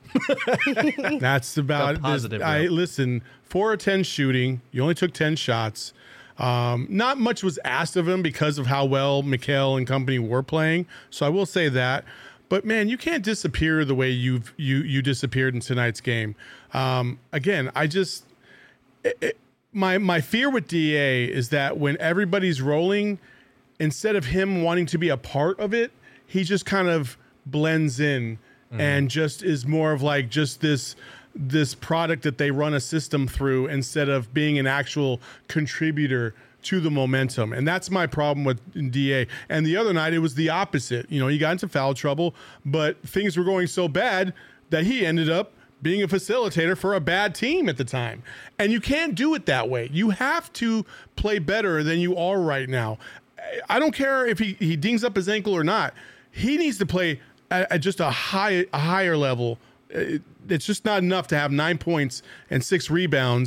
That's about The positive this- I route. listen. Four or ten shooting. You only took ten shots. Um, not much was asked of him because of how well Mikal and company were playing. So I will say that. But man, you can't disappear the way you've you you disappeared in tonight's game. Um, again, I just it, it, my my fear with D A is that when everybody's rolling, instead of him wanting to be a part of it, he just kind of blends in and just is more of like just this this product that they run a system through instead of being an actual contributor to the momentum. And that's my problem with D A. And the other night, it was the opposite. You know, he got into foul trouble, but things were going so bad that he ended up being a facilitator for a bad team at the time. And you can't do it that way. You have to play better than you are right now. I don't care if he, he dings up his ankle or not. He needs to play at, at just a high a higher level. It, it's just not enough to have nine points and six rebounds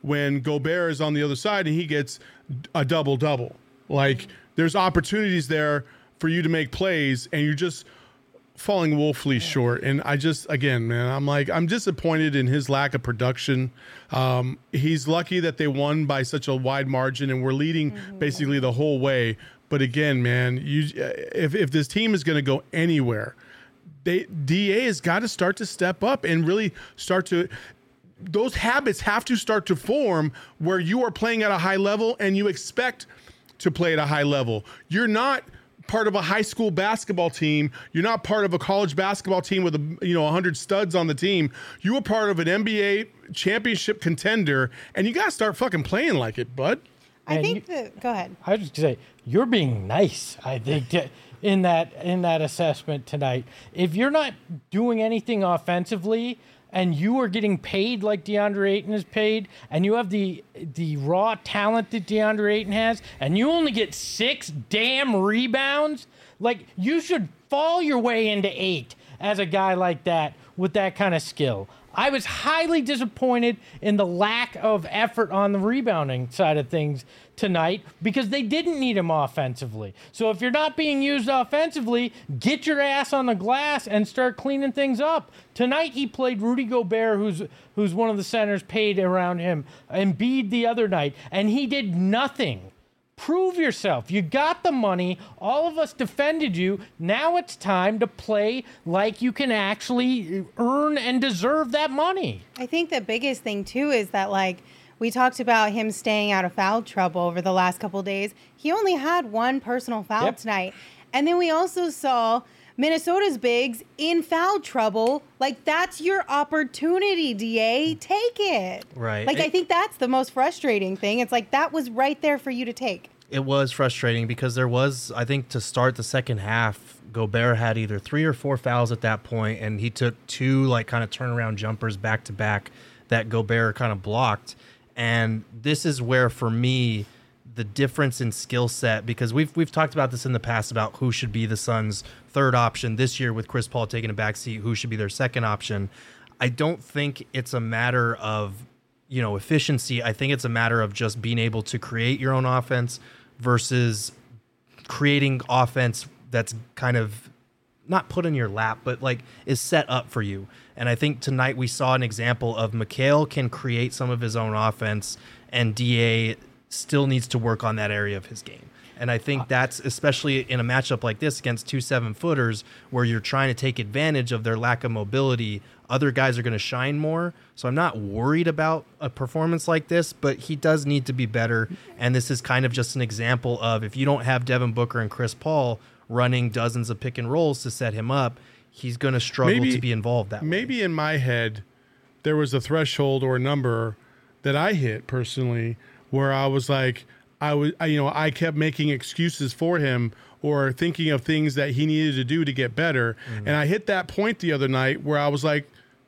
when Gobert is on the other side and he gets a double double. Like there's opportunities there for you to make plays, and you're just falling woefully short. And I just, again, man, I'm like, I'm disappointed in his lack of production. Um, he's lucky that they won by such a wide margin, and we're leading mm-hmm. basically the whole way. But again, man, you if if this team is going to go anywhere, they D A has got to start to step up and really start to. Those habits have to start to form where you are playing at a high level and you expect to play at a high level. You're not part of a high school basketball team. You're not part of a college basketball team with a, you know, one hundred studs on the team. You are part of an N B A championship contender, and you got to start fucking playing like it, bud. I And think you- that, go ahead. I was just gonna say you're being nice. I think to, in that in that assessment tonight, if you're not doing anything offensively and you are getting paid like DeAndre Ayton is paid, and you have the the raw talent that DeAndre Ayton has, and you only get six damn rebounds, like you should fall your way into eight as a guy like that with that kind of skill. I was highly disappointed in the lack of effort on the rebounding side of things tonight because they didn't need him offensively. So if you're not being used offensively, get your ass on the glass and start cleaning things up. Tonight he played Rudy Gobert, who's who's one of the centers paid around him, Embiid the other night, and he did nothing. Prove yourself. You got the money. All of us defended you. Now it's time to play like you can actually earn and deserve that money. I think the biggest thing, too, is that, like, we talked about him staying out of foul trouble over the last couple of days. He only had one personal foul Yep. tonight. And then we also saw Minnesota's bigs in foul trouble. Like, that's your opportunity, D A. Take it. Right. Like, It- I think that's the most frustrating thing. It's like, that was right there for you to take. It was frustrating because there was, I think, to start the second half, Gobert had either three or four fouls at that point, and he took two like kind of turnaround jumpers back to back that Gobert kind of blocked. And this is where, for me, the difference in skill set, because we've we've talked about this in the past about who should be the Suns' third option this year with Chris Paul taking a backseat, who should be their second option. I don't think it's a matter of, you know, efficiency. I think it's a matter of just being able to create your own offense versus creating offense that's kind of not put in your lap, but like is set up for you. And I think tonight we saw an example of Mikal can create some of his own offense, and D A still needs to work on that area of his game. And I think that's especially in a matchup like this against two seven-footers where you're trying to take advantage of their lack of mobility. Other guys are going to shine more. So I'm not worried about a performance like this, but he does need to be better. And this is kind of just an example of if you don't have Devin Booker and Chris Paul running dozens of pick and rolls to set him up, he's going to struggle Maybe- to be involved that way. Maybe in my head, there was a threshold or a number that I hit personally where I was like, I was, I, you know, I kept making excuses for him or thinking of things that he needed to do to get better. Mm-hmm. And I hit that point the other night where I was like,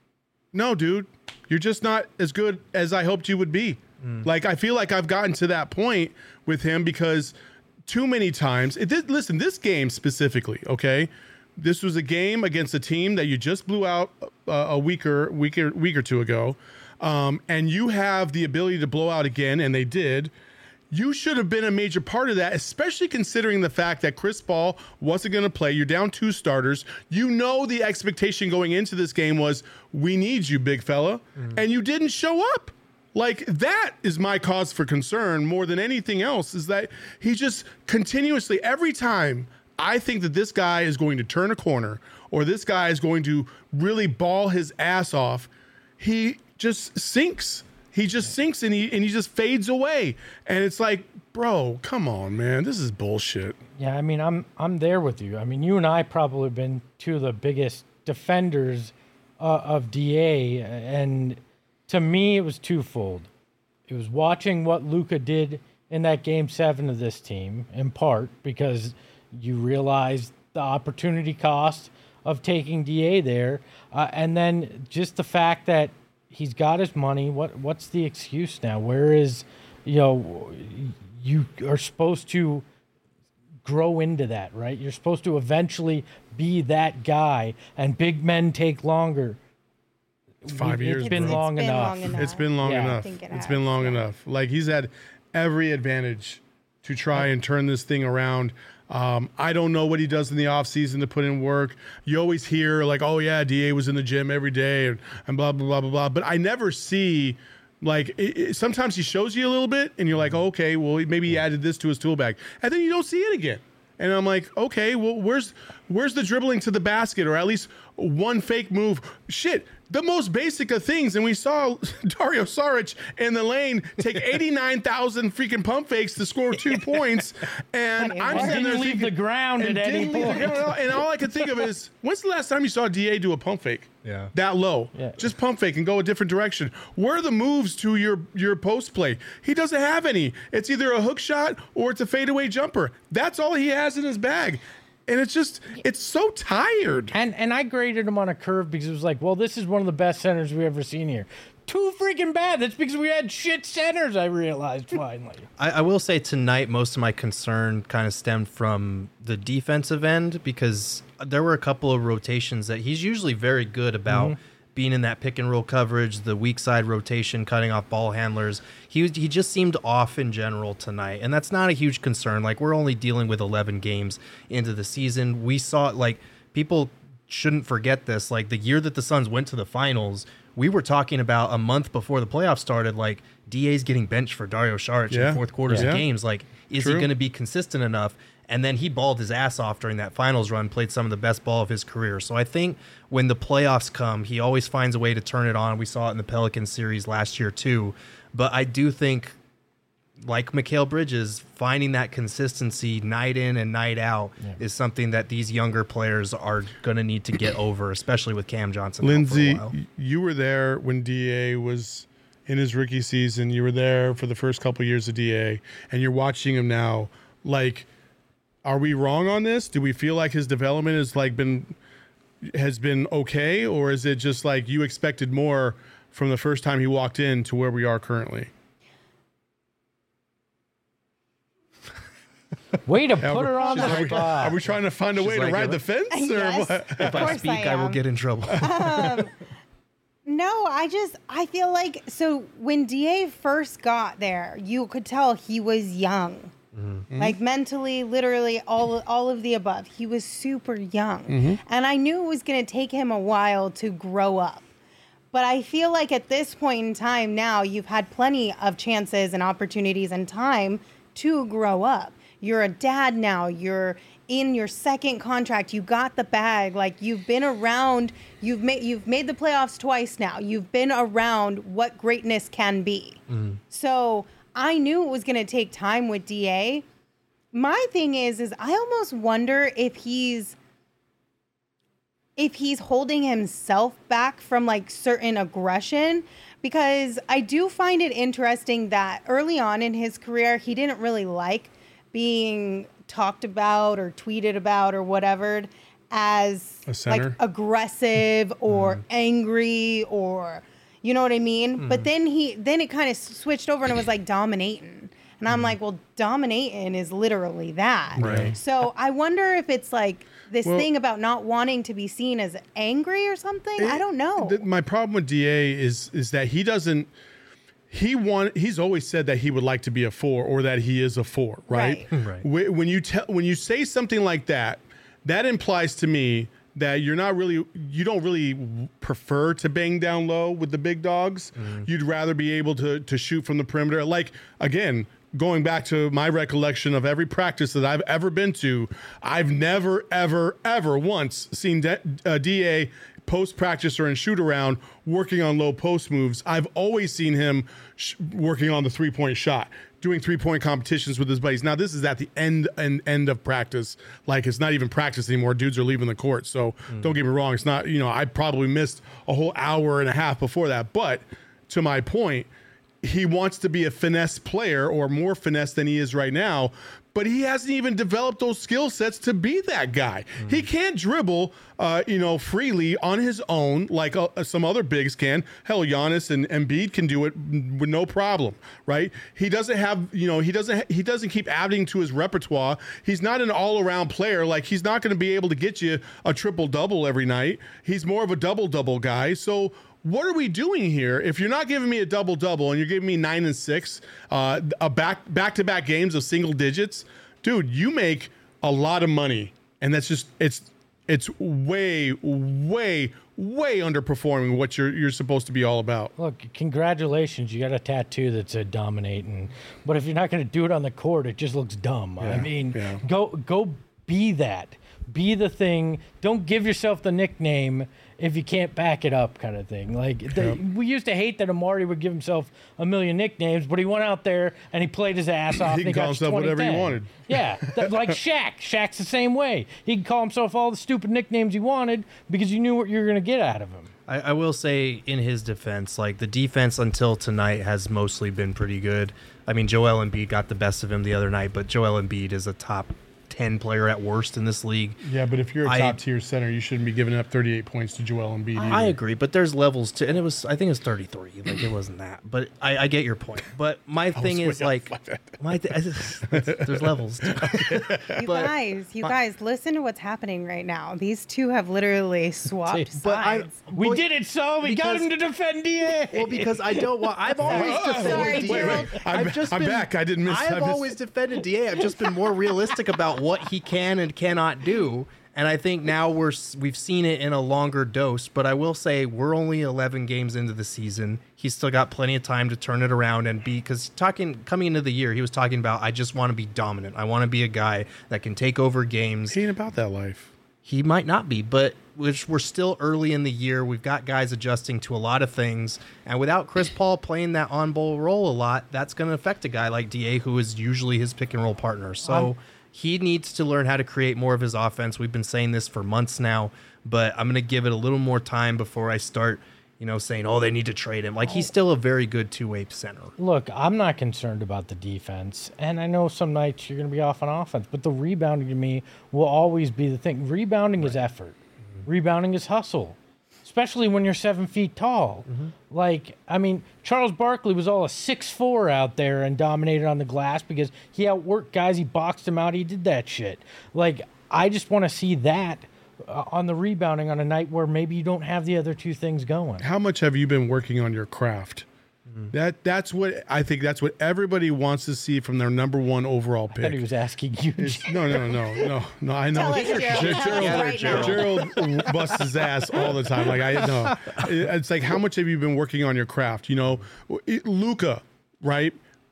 no, dude, you're just not as good as I hoped you would be. Mm. Like, I feel like I've gotten to that point with him because too many times, it did, listen, this game specifically, okay, this was a game against a team that you just blew out a, a weaker, weaker, week or two ago. Um, and you have the ability to blow out again, and they did. You should have been a major part of that, especially considering the fact that Chris Paul wasn't going to play. You're down two starters. You know the expectation going into this game was, we need you, big fella. Mm-hmm. And you didn't show up. Like, that is my cause for concern more than anything else, is that he just continuously, every time I think that this guy is going to turn a corner or this guy is going to really ball his ass off, he just sinks. He just sinks and he and he just fades away. And it's like, bro, come on, man. This is bullshit. Yeah, I mean, I'm I'm there with you. I mean, you and I probably have been two of the biggest defenders uh, of D A, and to me, it was twofold. It was watching what Luka did in that game seven of this team, in part because you realize the opportunity cost of taking D A there, uh, and then just the fact that he's got his money. What what's the excuse now? Where is, you know, you are supposed to grow into that, right? You're supposed to eventually be that guy, and big men take longer. Five It's years, been bro. long It's been enough. long enough. It's been long Yeah. I enough. think it It's has, been long yeah. enough. Like he's had every advantage to try and turn this thing around. Um, I don't know what he does in the offseason to put in work. You always hear like, oh yeah, D A was in the gym every day and, and blah, blah, blah, blah, blah. But I never see like, it, it, sometimes he shows you a little bit and you're like, oh, okay, well, maybe he added this to his tool bag. And then you don't see it again. And I'm like, okay, well, where's where's the dribbling to the basket, or at least one fake move? Shit, the most basic of things. And we saw Dario Saric in the lane take eighty-nine thousand freaking pump fakes to score two points. And Funny, I'm right? sitting there Didn't leave thinking, the ground and at any didn't leave the point. ground. And all I could think of is, when's the last time you saw D A do a pump fake? Yeah. That low. Yeah. Just pump fake and go a different direction. Where are the moves to your, your post play? He doesn't have any. It's either a hook shot or it's a fadeaway jumper. That's all he has in his bag. And it's just, it's so tired. And and I graded him on a curve because it was like, well, this is one of the best centers we've ever seen here. Too freaking bad. That's because we had shit centers, I realized finally. I, I will say tonight, most of my concern kind of stemmed from the defensive end, because there were a couple of rotations that he's usually very good about Mm-hmm. being in that pick and roll coverage, the weak side rotation, cutting off ball handlers. He was, he just seemed off in general tonight, and that's not a huge concern. Like, we're only dealing with eleven games into the season. We saw, like, people shouldn't forget this. Like, the year that the Suns went to the finals, we were talking about a month before the playoffs started, like, D A's getting benched for Dario Saric Yeah. in fourth quarters Yeah. of games. Like, is True. he going to be consistent enough? And then he balled his ass off during that finals run, played some of the best ball of his career. So I think when the playoffs come, he always finds a way to turn it on. We saw it in the Pelicans series last year too. But I do think, like Mikal Bridges, finding that consistency night in and night out is something that these younger players are going to need to get over, especially with Cam Johnson out for a Lindsay, while. you were there when D A was in his rookie season. You were there for the first couple years of D A, and you're watching him now. Like, are we wrong on this? Do we feel like his development has like been has been okay, or is it just like you expected more from the first time he walked in to where we are currently? Way to Yeah, put we're- her on she's the like, spot. Are we trying to find a She's way like, to ride if- the fence, or Yes. what? Of If I course speak, I I, will am. get in trouble. No, I just I feel like so when D A first got there, you could tell he was young. Mm-hmm. Like mentally, literally all all of the above. He was super young. Mm-hmm. And I knew it was going to take him a while to grow up. But I feel like at this point in time now, you've had plenty of chances and opportunities and time to grow up. You're a dad now. You're in your second contract. You got the bag. Like, you've been around. You've made you've made the playoffs twice now. You've been around what greatness can be. So I knew it was going to take time with D A. My thing is, is I almost wonder if he's if he's holding himself back from like certain aggression, because I do find it interesting that early on in his career, he didn't really like being talked about or tweeted about or whatever as A like center? aggressive or angry or, you know what I mean? But then he, then it kind of switched over and it was like dominating. And I'm like, well, dominating is literally that. Right. So I wonder if it's like this Well- thing about not wanting to be seen as angry or something. I don't know. Th- My problem with D A is is that he doesn't. He want. He's always said that he would like to be a four, or that he is a four, right? Right. Right. Wh- When you tell, when you say something like that, that implies to me that you're not really, you don't really prefer to bang down low with the big dogs. You'd rather be able to to shoot from the perimeter. Like, again, going back to my recollection of every practice that I've ever been to, I've never, ever, ever once seen D- uh, D A post practice or in shoot around working on low post moves. I've always seen him sh- working on the three point shot, doing three point competitions with his buddies. Now this is at the end and end of practice. Like, it's not even practice anymore. Dudes are leaving the court. So don't get me wrong. It's not, you know, I probably missed a whole hour and a half before that. But to my point, he wants to be a finesse player, or more finesse than he is right now, but he hasn't even developed those skill sets to be that guy. He can't dribble, uh, you know, freely on his own like uh, some other bigs can. Hell, Giannis and Embiid can do it with no problem, right? He doesn't have, you know, he doesn't he doesn't keep adding to his repertoire. He's not an all-around player. Like, he's not going to be able to get you a triple double every night. He's more of a double double guy. So what are we doing here? If you're not giving me a double double and you're giving me nine and six, uh, a back back to back games of single digits, dude, you make a lot of money, and that's just it's it's way way way underperforming what you're you're supposed to be all about. Look, congratulations, you got a tattoo that said dominating, but if you're not going to do it on the court, it just looks dumb. Yeah, I mean, yeah. go go be that. Be the thing. Don't give yourself the nickname if you can't back it up, kind of thing. Like the, Yep. we used to hate that Amari would give himself a million nicknames, but he went out there and he played his ass off. He and can call got himself whatever he twenty ten. wanted. Yeah, that, like Shaq. Shaq's the same way. He can call himself all the stupid nicknames he wanted because you knew what you were going to get out of him. I, I will say in his defense, like the defense until tonight has mostly been pretty good. I mean, Joel Embiid got the best of him the other night, but Joel Embiid is a top ten player at worst in this league. Yeah, but if you're a I- top tier center, you shouldn't be giving up thirty-eight points to Joel Embiid. I either. agree, but there's levels to, and it was I think it was thirty-three. Like it wasn't that, but I, I get your point. But my thing way is off like, by that. my th- I just- there's levels. To it. You But- guys, you guys, listen to what's happening right now. These two have literally swapped But I, sides. We well, did it, so we got because- him to defend D A. Well, because I don't want. I've always Sorry. defended Sorry, D A. Gerald. I'm- I've just I'm been, back. I didn't miss- I've I missed- always defended D A. I've just been more realistic about what he can and cannot do. And I think now we're s- we've seen it in a longer dose. But I will say we're only eleven games into the season. He's still got plenty of time to turn it around and be, because talking coming into the year, he was talking about, I just want to be dominant. I want to be a guy that can take over games. He ain't about that life. He might not be, but which we're still early in the year. We've got guys adjusting to a lot of things, and without Chris Paul playing that on-ball role a lot, that's going to affect a guy like D A, who is usually his pick and roll partner. So Um, he needs to learn how to create more of his offense. We've been saying this for months now, but I'm going to give it a little more time before I start, you know, saying, oh, they need to trade him. Like, he's still a very good two-way center. Look, I'm not concerned about the defense, and I know some nights you're going to be off on offense, but the rebounding to me will always be the thing. Rebounding is effort. Rebounding is hustle, especially when you're seven feet tall. Like, I mean, Charles Barkley was all a six four out there and dominated on the glass because he outworked guys, he boxed them out, he did that shit. Like, I just want to see that uh, on the rebounding on a night where maybe you don't have the other two things going. How much have you been working on your craft? That that's what I think. That's what everybody wants to see from their number one overall I thought he pick. was asking you. No, no, no, no, no. I know. Tell us, Gerald. Ger- Tell us right now. Gerald busts his ass all the time. Like I know. It's like, how much have you been working on your craft? You know, Luka, right?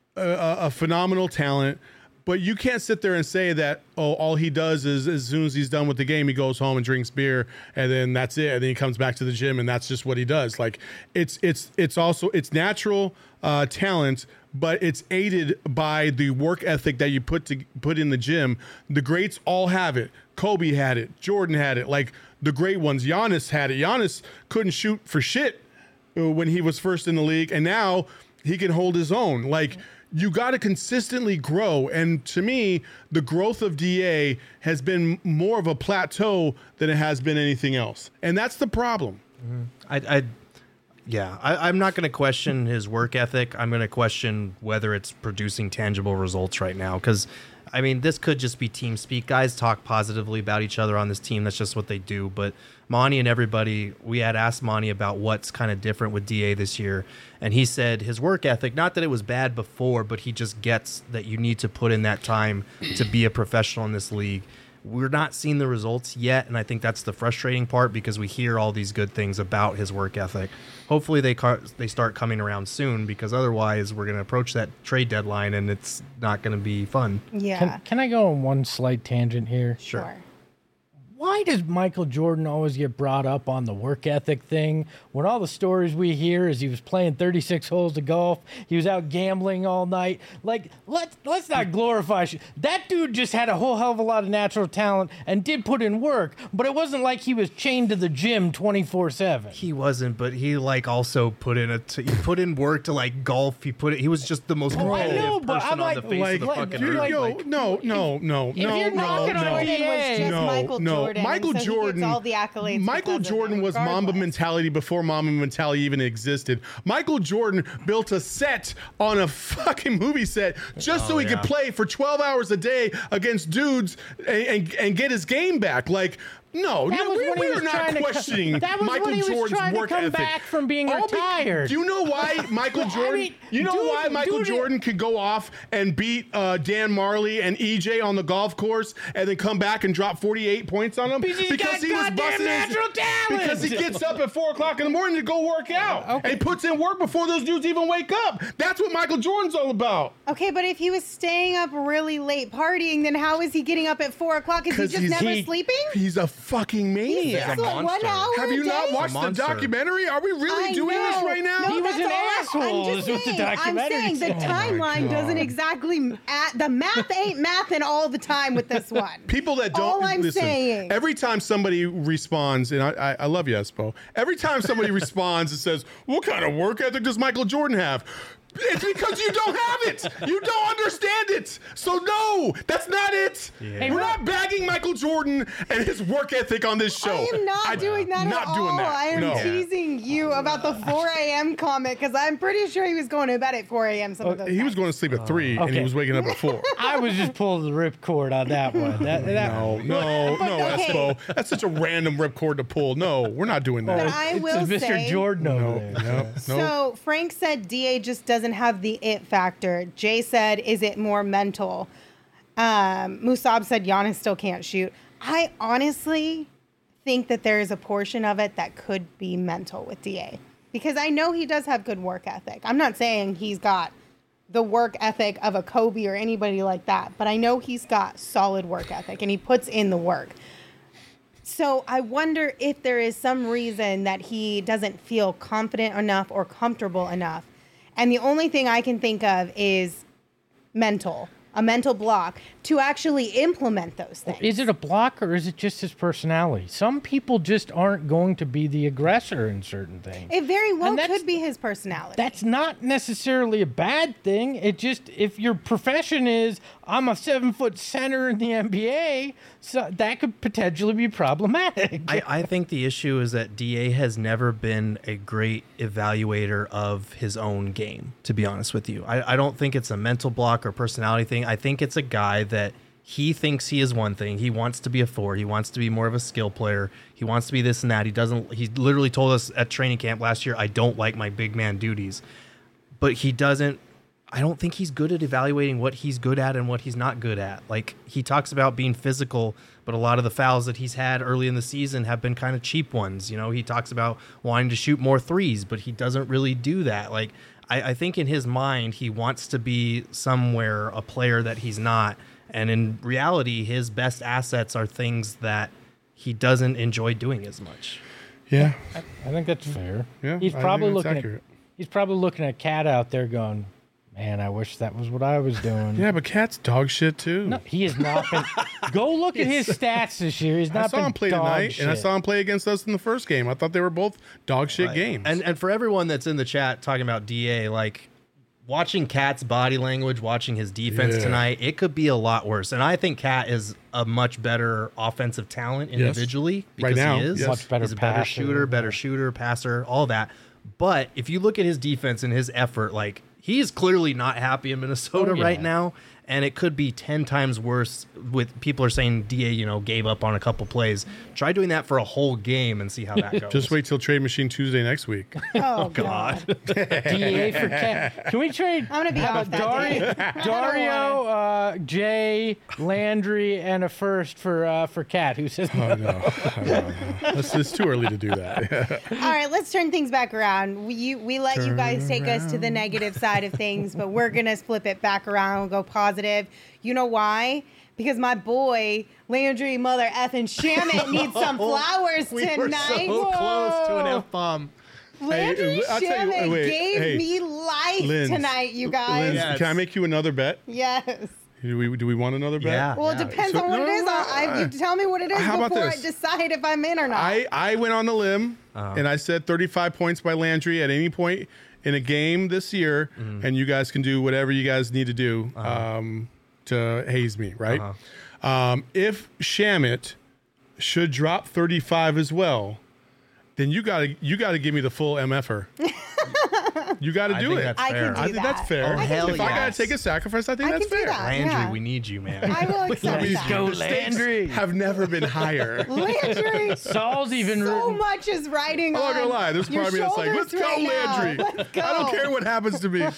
A, a phenomenal talent. But you can't sit there and say that, oh, all he does is as soon as he's done with the game, he goes home and drinks beer, and then that's it. And then he comes back to the gym, and that's just what he does. Like it's it's it's also it's natural uh, talent, but it's aided by the work ethic that you put to put in the gym. The greats all have it. Kobe had it. Jordan had it. Like the great ones. Giannis had it. Giannis couldn't shoot for shit when he was first in the league, and now he can hold his own. Like, you got to consistently grow. And to me, the growth of D A has been more of a plateau than it has been anything else. And that's the problem. I, I yeah, I, I'm not going to question his work ethic. I'm going to question whether it's producing tangible results right now. Because, I mean, this could just be team speak. Guys talk positively about each other on this team. That's just what they do. But Monty and everybody, we had asked Monty about what's kind of different with D A this year. And he said his work ethic, not that it was bad before, but he just gets that you need to put in that time to be a professional in this league. We're not seeing the results yet, and I think that's the frustrating part because we hear all these good things about his work ethic. Hopefully they car- they start coming around soon, because otherwise we're going to approach that trade deadline and it's not going to be fun. Yeah. Can, can I go on one slight tangent here? Sure. Why does Michael Jordan always get brought up on the work ethic thing when all the stories we hear is he was playing thirty-six holes of golf, he was out gambling all night? Like, let's let's not glorify shit. That dude just had a whole hell of a lot of natural talent and did put in work, but it wasn't like he was chained to the gym twenty-four seven. He wasn't, but he like also put in a t- he put in work to like golf. He put it. He was just the most Oh, I competitive know, but person I'm on like- the face Like, of the like, fucking you're earth. like- yo, Like, no, no, no, If no, you're no, knocking on no. D A, was just No, Michael no. Jordan, Michael so he gets Jordan. all the accolades Michael because of Jordan that, was Mamba regardless. mentality before Mamba mentality even existed. Michael Jordan built a set on a fucking movie set just so Oh, he yeah. could play for twelve hours a day against dudes and, and, and get his game back. Like, No, That no, was we, when he we was are not trying to co- questioning that was Michael when he was Jordan's trying to work come ethic. back from being All be- retired. Do you know why Michael I Jordan? mean, you know dude, why Michael dude, Jordan could go off and beat uh, Dan Marley and E J on the golf course, and then come back and drop forty-eight points on them Because he's got goddamn busting his- natural talent. Because he gets up at four o'clock in the morning to go work out, Okay. and puts in work before those dudes even wake up. That's what Michael Jordan's all about. Okay, but if he was staying up really late partying, then how is he getting up at four o'clock? Is he just he's- never he- sleeping? He's a fucking maniac. He's a like one monster. hour Have a you not day? watched the monster. documentary? Are we really I doing this know. right now? No, He was that's an all I- asshole, I'm is just what the saying, I'm documentary saying the said. Oh my timeline God. doesn't exactly at the math ain't mathing all the time with this one. People that don't All I'm listen. saying. Every time somebody responds, and I, I, I love you, Espo. Every time somebody responds and says, "What kind of work ethic does Michael Jordan have?" It's because you don't have it. You don't understand it. So no, that's not it. Yeah. We're not bagging Michael Jordan and his work ethic on this show. I am not I- doing that Not at doing all. that. I am no. teasing you about the four a.m. comment because I'm pretty sure he was going to bed at four a.m. some of those He was nights. going to sleep at three, and he okay. was waking up at four. I was just pulling the ripcord on that one. That, that, No, no, no, okay. Espo. That's such a random ripcord to pull. No, we're not doing that. But I it's will Mister say- Jordan over No, there. no, no. So Frank said D A just doesn't have the it factor. Jay said, is it more mental? Um, Musab said Giannis still can't shoot. I honestly think that there is a portion of it that could be mental with D A because I know he does have good work ethic. I'm not saying he's got the work ethic of a Kobe or anybody like that, but I know he's got solid work ethic and he puts in the work. So I wonder if there is some reason that he doesn't feel confident enough or comfortable enough. And the only thing I can think of is mental, a mental block to actually implement those things. Is it a block or is it just his personality? Some people just aren't going to be the aggressor in certain things. It very well And that's- could be his personality. That's not necessarily a bad thing. It just, if your profession is, I'm a seven foot center in the N B A, so that could potentially be problematic. I, I think the issue is that D A has never been a great evaluator of his own game, to be honest with you. I, I don't think it's a mental block or personality thing. I think it's a guy that he thinks he is one thing. He wants to be a four. He wants to be more of a skill player. He wants to be this and that. He doesn't, he literally told us at training camp last year, I don't like my big man duties. But he doesn't, I don't think he's good at evaluating what he's good at and what he's not good at. Like, he talks about being physical, but a lot of the fouls that he's had early in the season have been kind of cheap ones. You know, he talks about wanting to shoot more threes, but he doesn't really do that. Like, I, I think in his mind, he wants to be somewhere a player that he's not. And in reality, his best assets are things that he doesn't enjoy doing as much. Yeah. I think that's fair. Yeah, he's I probably think that's looking accurate. at he's probably looking at Cat out there going, man, I wish that was what I was doing. Yeah, but Cat's dog shit too. No, he has not been. Go look at his stats this year. He's not I saw been him play dog tonight, shit. and I saw him play against us in the first game. I thought they were both dog shit Right. games. And and for everyone that's in the chat talking about D A, like, watching Cat's body language, watching his defense Yeah. tonight, it could be a lot worse. And I think Cat is a much better offensive talent individually because Right now, he is. yes. Much better He's a better passer. shooter, better shooter, passer, all that. But if you look at his defense and his effort, like, he's clearly not happy in Minnesota Oh, yeah. right now. And it could be ten times worse with people are saying D A, you know, gave up on a couple plays. Try doing that for a whole game and see how that goes. Just wait till Trade Machine Tuesday next week. oh, God. D A for Cat. Can we trade? I'm gonna be uh, off that day. Dario, uh, Jay, Landry, and a first for uh, for Cat. Who says no? Oh, no. I don't know. It's, it's too early to do that. All right, let's turn things back around. We we let you guys take us to the negative side of things, but we're gonna flip it back around and go positive. You know why? Because my boy Landry Mother effing Shamit needs some flowers we tonight. were so close to an F bomb. Landry Hey, I'll tell you- Shamit wait, gave hey, me life Linz, tonight, you guys. Linz, Yes. can I make you another bet? Yes. Do we do we want another bet? Yeah. Well, it depends So- on what no, it is. no, I'll, I, you uh, tell me what it is how about before I this? decide if I'm in or not. I, I went on the limb and I said thirty-five points by Landry at any point in a game this year, and you guys can do whatever you guys need to do um, to haze me, right? Um, if Shamit should drop thirty-five as well, then you gotta you gotta give me the full M F R. You got to I do think it. that's I fair. can do I think that. that's fair. Oh, hell if I got yes. to take a sacrifice, I think I that's can do fair. that. Landry, yeah. we need you, man. I will accept Let's that. go, The stakes Landry. have never been higher. Landry, Saul's even so written- much is riding I'm on not gonna lie. There's your part of me that's like, shoulders let's go, right now. Landry. Let's go. I don't care what happens to me.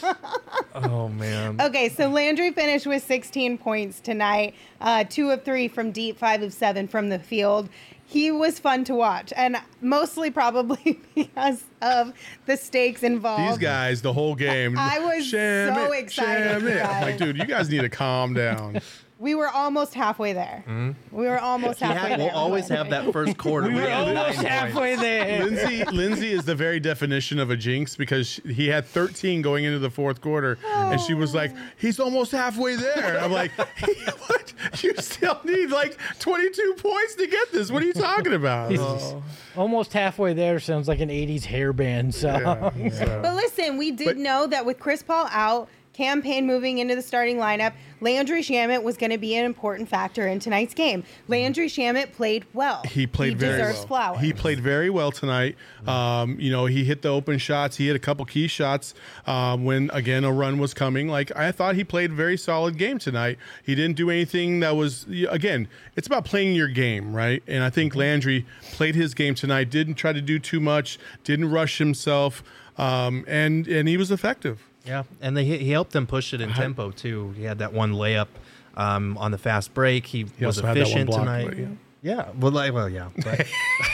Oh man. Okay, so Landry finished with sixteen points tonight, uh, two of three from deep, five of seven from the field. He was fun to watch, and mostly probably because of the stakes involved. These guys, the whole game. I was sham so it, excited, sham it. I'm guys. like, dude, you guys need to calm down. We were almost halfway there. We were almost He halfway had- there. we'll always have that first quarter. We where were he had almost nine halfway there. Lindsay, Lindsay is the very definition of a jinx because he had thirteen going into the fourth quarter, and she was like, "He's almost halfway there." And I'm like, "What? You still need like twenty-two points to get this? What are you talking about?" Oh. Almost halfway there sounds like an eighties hair band song. Yeah, so- But listen, we did But- know that with Chris Paul out, Campaign moving into the starting lineup, Landry Shamet was going to be an important factor in tonight's game. Landry Shamet played well. He played he very deserves well. flowers. He played very well tonight. Um, you know, he hit the open shots. He hit a couple key shots um, when, again, a run was coming. Like, I thought he played a very solid game tonight. He didn't do anything that was, again, it's about playing your game, right? And I think Landry played his game tonight, didn't try to do too much, didn't rush himself, um, and, and he was effective. Yeah, and they, he helped them push it in tempo too. He had that one layup um, on the fast break. He, He was also had that one efficient block, tonight. but yeah. Yeah, well, like, well, yeah. But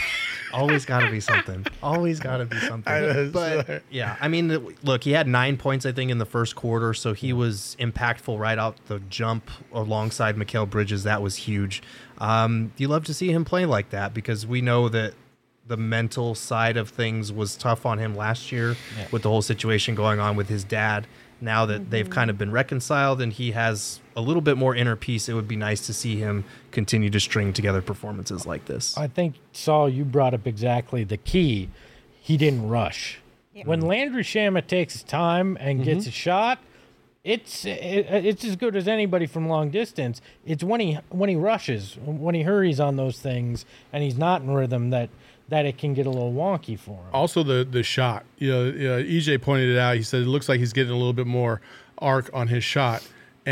always got to be something. Always got to be something. I know, but sorry. yeah, I mean, look, he had nine points, I think, in the first quarter, so he was impactful right out the jump alongside Mikal Bridges. That was huge. Um, you love to see him play like that because we know that the mental side of things was tough on him last year Yeah. with the whole situation going on with his dad. Now that they've kind of been reconciled and he has a little bit more inner peace, it would be nice to see him continue to string together performances like this. I think, Saul, you brought up exactly the key. He didn't rush. When Landry Shamet takes his time and gets a shot, it's it, it's as good as anybody from long distance. It's when he when he rushes, when he hurries on those things, and he's not in rhythm that that it can get a little wonky for him. Also, the the shot. You know, uh, E J pointed it out. He said it looks like he's getting a little bit more arc on his shot,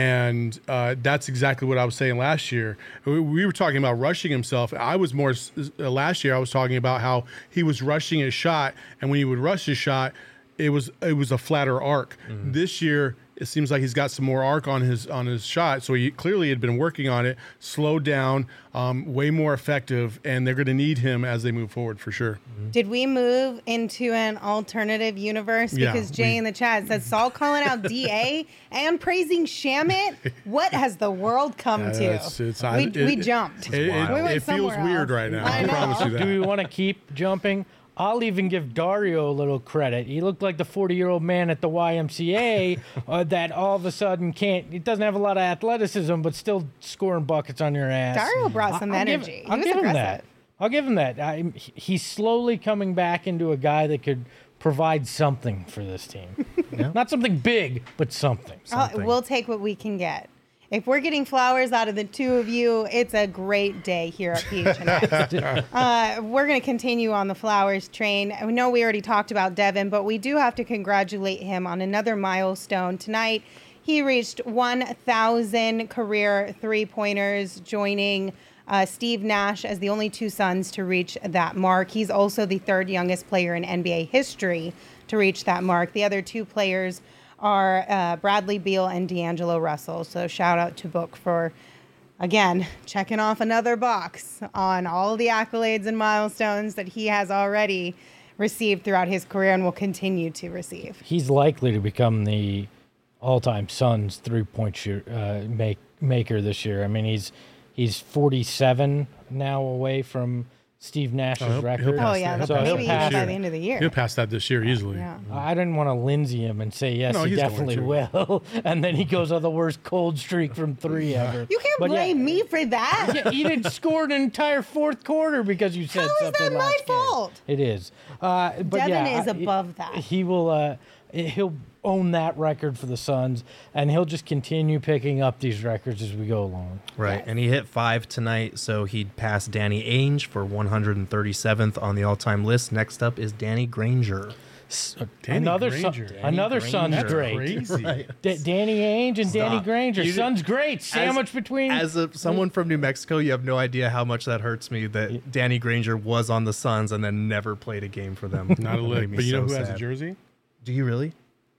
and uh, that's exactly what I was saying last year. We, we were talking about rushing himself. I was more uh, last year. I was talking about how he was rushing his shot, and when he would rush his shot, it was it was a flatter arc. Mm-hmm. This year, it seems like he's got some more arc on his on his shot. So he clearly had been working on it, slowed down, um, way more effective, and they're going to need him as they move forward for sure. Did we move into an alternative universe? Yeah, Because Jay we- in the chat says Saul calling out D A and praising Shamet. What has the world come Yeah, to? it's- it's- I- we, it- we it- jumped. It, it- wild. We went it feels somewhere weird else. right now. I I, know. promise you that. Do we want to keep jumping? I'll even give Dario a little credit. He looked like the forty-year-old man at the Y M C A uh, that all of a sudden can't. He doesn't have a lot of athleticism, but still scoring buckets on your ass. Dario brought some I'll give- energy. I'll he was give him aggressive. that. I'll give him that. I, he- he's slowly coming back into a guy that could provide something for this team. Not something big, but something. Uh, Something. we'll take what we can get. If we're getting flowers out of the two of you, it's a great day here at P H N X. uh, we're going to continue on the flowers train. I know we already talked about Devin, but we do have to congratulate him on another milestone. Tonight, he reached one thousand career three-pointers, joining uh, Steve Nash as the only two Suns to reach that mark. He's also the third youngest player in N B A history to reach that mark. The other two players are uh, Bradley Beal and D'Angelo Russell. So shout out to Book for, again, checking off another box on all the accolades and milestones that he has already received throughout his career and will continue to receive. He's likely to become the all-time Suns three-point shoot, uh, make, maker this year. I mean, he's he's forty-seven now away from Steve Nash's he'll- he'll record. pass Oh, yeah. that. So He'll he'll maybe pass even by it. the end of the year. He'll pass that this year easily. Yeah. I didn't want to Lindsay him and say yes, No, he he's going definitely to. will, and then he goes on the worst cold streak from three ever. You can't But yeah, blame me for that. Yeah, he didn't score an entire fourth quarter because you said How is something that my last game. fault? It is. Uh, but Devin yeah, is I- above that. He will. Uh, he'll own that record for the Suns, and he'll just continue picking up these records as we go along. Right, Yes. and he hit five tonight, so he'd pass Danny Ainge for one hundred thirty-seventh on the all-time list. Next up is Danny Granger. S- Danny another Granger. son, Danny another Granger. son's That's great. Crazy. Right. D- Danny Ainge and Danny Stop. Granger. You- Son's great. Sandwich between. As a someone from New Mexico, you have no idea how much that hurts me that Danny Granger was on the Suns and then never played a game for them. Not a That made lick. me But you know so who has a sad. jersey? Do you really?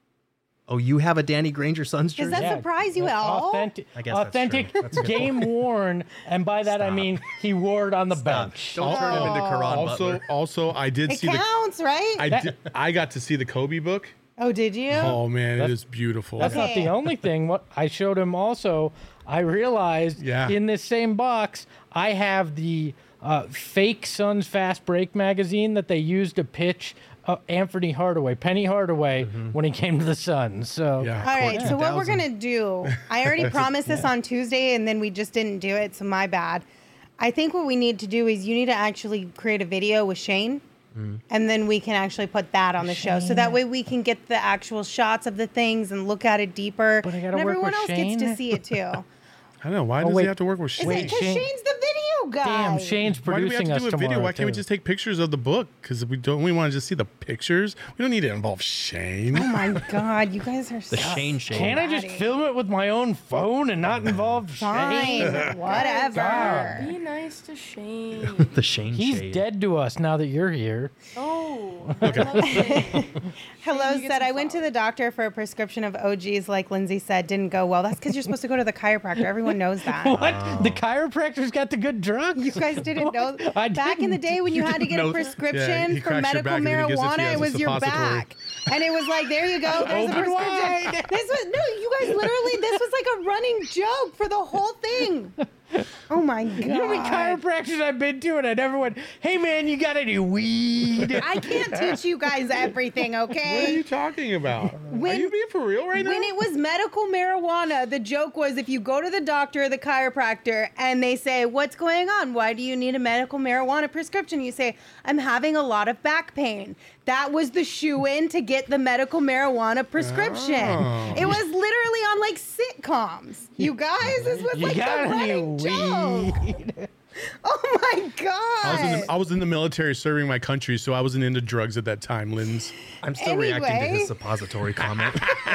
Oh, you have a Danny Granger Suns Does jersey? that surprise you at all? Authentic, I guess that's authentic true. That's a good game worn, and by that I Stop. mean he wore it on the Stop. bench. Don't turn him into Karan Also, Butler. also, I did It see the. counts, right? I did, I got to see the Kobe book. oh, did you? Oh man, it That's- is beautiful. That's not Okay. the only thing. What I showed him also, I realized Yeah. in this same box, I have the uh, fake Suns Fast Break magazine that they used to pitch uh, Anthony Hardaway, Penny Hardaway, when he came to the Suns. So Yeah. All right, so what we're two thousand. gonna do? I already promised this on Tuesday, and then we just didn't do it, so my bad. I think what we need to do is you need to actually create a video with Shane, and then we can actually put that on the show, so that way we can get the actual shots of the things and look at it deeper. But I gotta and work everyone with else Shane? gets to see it too. I don't know. Why does wait. he have to work with Is Shane? Wait, it because Shane- Shane's the video guy? damn, Shane's Why do we have producing to us do a tomorrow. video? Why can't we too. just take pictures of the book? Because we don't. We want to just see the pictures. We don't need to involve Shane. Oh my god, you guys are The so Shane Shane. Can't I just film it with my own phone and not involve Shane? fine. Whatever. Be nice to Shane. The Shane He's shade. dead to us now that you're here. Oh. Okay. Hello you get said some I went to flowers. the doctor for a prescription of O Gs, like Lindsay said, didn't go well. That's because you're supposed to go to the chiropractor. Everyone knows that. What? The chiropractor's got the good drugs? You guys didn't know. I Back in the didn't. day when you, had to get know a that. Yeah, prescription he for cracks your medical back and then he gives it to you marijuana, as it a was your suppository. back. And it was like, there you go. There's a Open prescription. wide. This was no, you guys literally. This was like a running joke for the whole thing. Oh my god! You know how many chiropractors I've been to, and I never went, hey man, you got any weed? I can't teach you guys everything, What are okay? you talking about? When- are you being for real right now? When it was medical marijuana, the joke was if you go to the doctor or the chiropractor and they say, what's going on? Why do you need a medical marijuana prescription? You say, I'm having a lot of back pain. That was the shoe-in to get the medical marijuana prescription. Oh. It was literally on like sitcoms. You guys, this was You like got a any running joke. weed? Oh my god! I was, in the, I was in the military serving my country, so I wasn't into drugs at that time, Linz. I'm still reacting to Anyway. his suppository comment.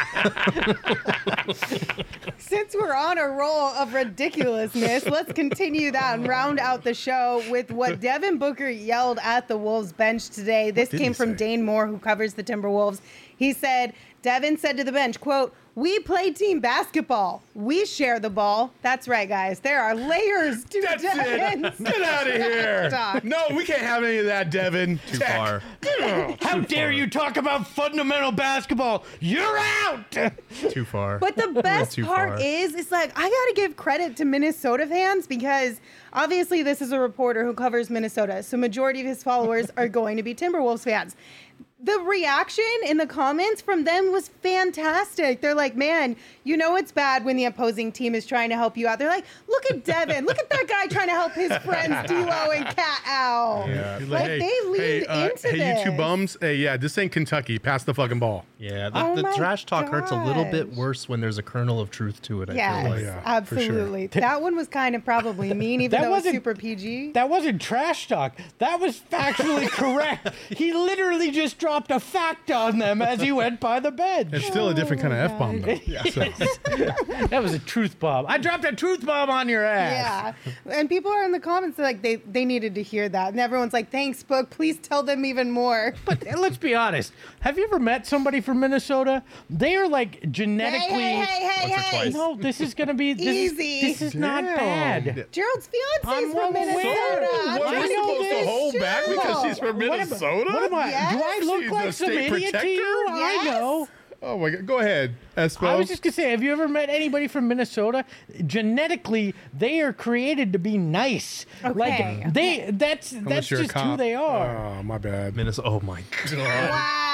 Since we're on a roll of ridiculousness, let's continue that and round out the show with what Devin Booker yelled at the Wolves bench today. This did came he from say? Dane Moore, who covers the Timberwolves. He said, Devin said to the bench, quote, we play team basketball. We share the ball. That's right, guys. There are layers to That's Devin's it. Get out of here. talk. No, we can't have any of that, Devin. Too far. How dare you talk about fundamental basketball? You're out! Too far. But the best Too part far. is, it's like, I got to give credit to Minnesota fans because obviously this is a reporter who covers Minnesota. So majority of his followers are going to be Timberwolves fans. The reaction in the comments from them was fantastic. They're like, man, you know it's bad when the opposing team is trying to help you out. They're like, look at Devin. Look at that guy trying to help his friends D'Lo and Cat Al. Yeah. He's Like, they leaned hey, uh, into hey, you two this. bums. Hey, yeah, this ain't Kentucky. Pass the fucking ball. Yeah, the, Oh the my trash talk hurts a little bit gosh. worse when there's a kernel of truth to it. I Yes, feel like. yeah, for sure. absolutely. That one was kind of probably mean, even That though it was wasn't- super P G. That wasn't trash talk. That was factually correct. He literally just dropped a fact on them as he went by the bench. It's still a different kind of F bomb, though. So, That was a truth bomb. I dropped a truth bomb on your ass. Yeah, and people are in the comments like they they needed to hear that, and everyone's like, "Thanks, Book. Please tell them even more." But uh, let's be honest. Have you ever met somebody from Minnesota? They are like Hey, genetically. hey, hey, hey, Once or hey! twice. No, this is gonna be this Easy. Is, this is not Damn. bad. Gerald's fiance I'm is well from aware. Minnesota. So, I'm what, trying am I to supposed keep to this hold back because chill. she's from What am- Minnesota? What am I? Yes. Do I look She's like the some state idiot to you? protector? I know. oh my God, go ahead, Espo. I was just gonna say, have you ever met anybody from Minnesota? Genetically, they are created to be nice. Okay, Like they, that's Unless that's you're a just who cop. they are. Oh, my bad. Minnesota. Oh my god.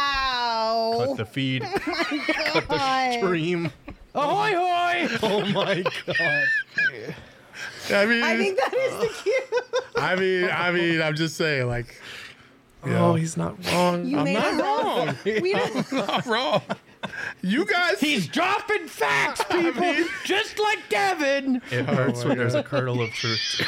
Wow. Cut the feed. Cut the God. stream. Ahoy hoy! Oh my god. I mean, I think that is the cue. I mean, I mean, I'm just saying, like, you Oh, know, he's not wrong. You made not it wrong. We don't, not wrong. You guys, He's dropping facts, people, just like Devin. It hurts when there's a kernel of truth.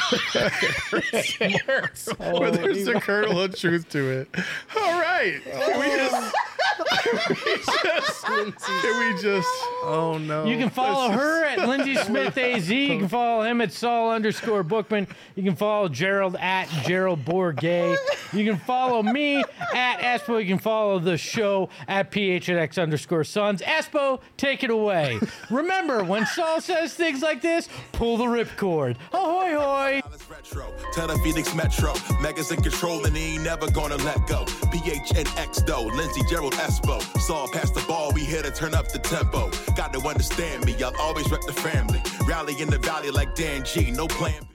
well, there's a kernel of truth to it. All right, can we just Can we just? Oh no. You can follow her at Lindsey Smith A Z. You can follow him at Saul underscore Bookman. You can follow Gerald at Gerald Bourget. You can follow me at Espo. You can follow the show at P H N X underscore Sons. Espo, take it away. Remember, when Saul says things like this, pull the ripcord. Ahoy hoy. Retro, tell the Phoenix Metro, Megas in control and he ain't never gonna let go. P H N X though, Lindsey, Gerald, Espo. Saul pass the ball, we here to turn up the tempo. Got to understand me, I'll always rep the family. Rally in the valley like Dan G, no plan B.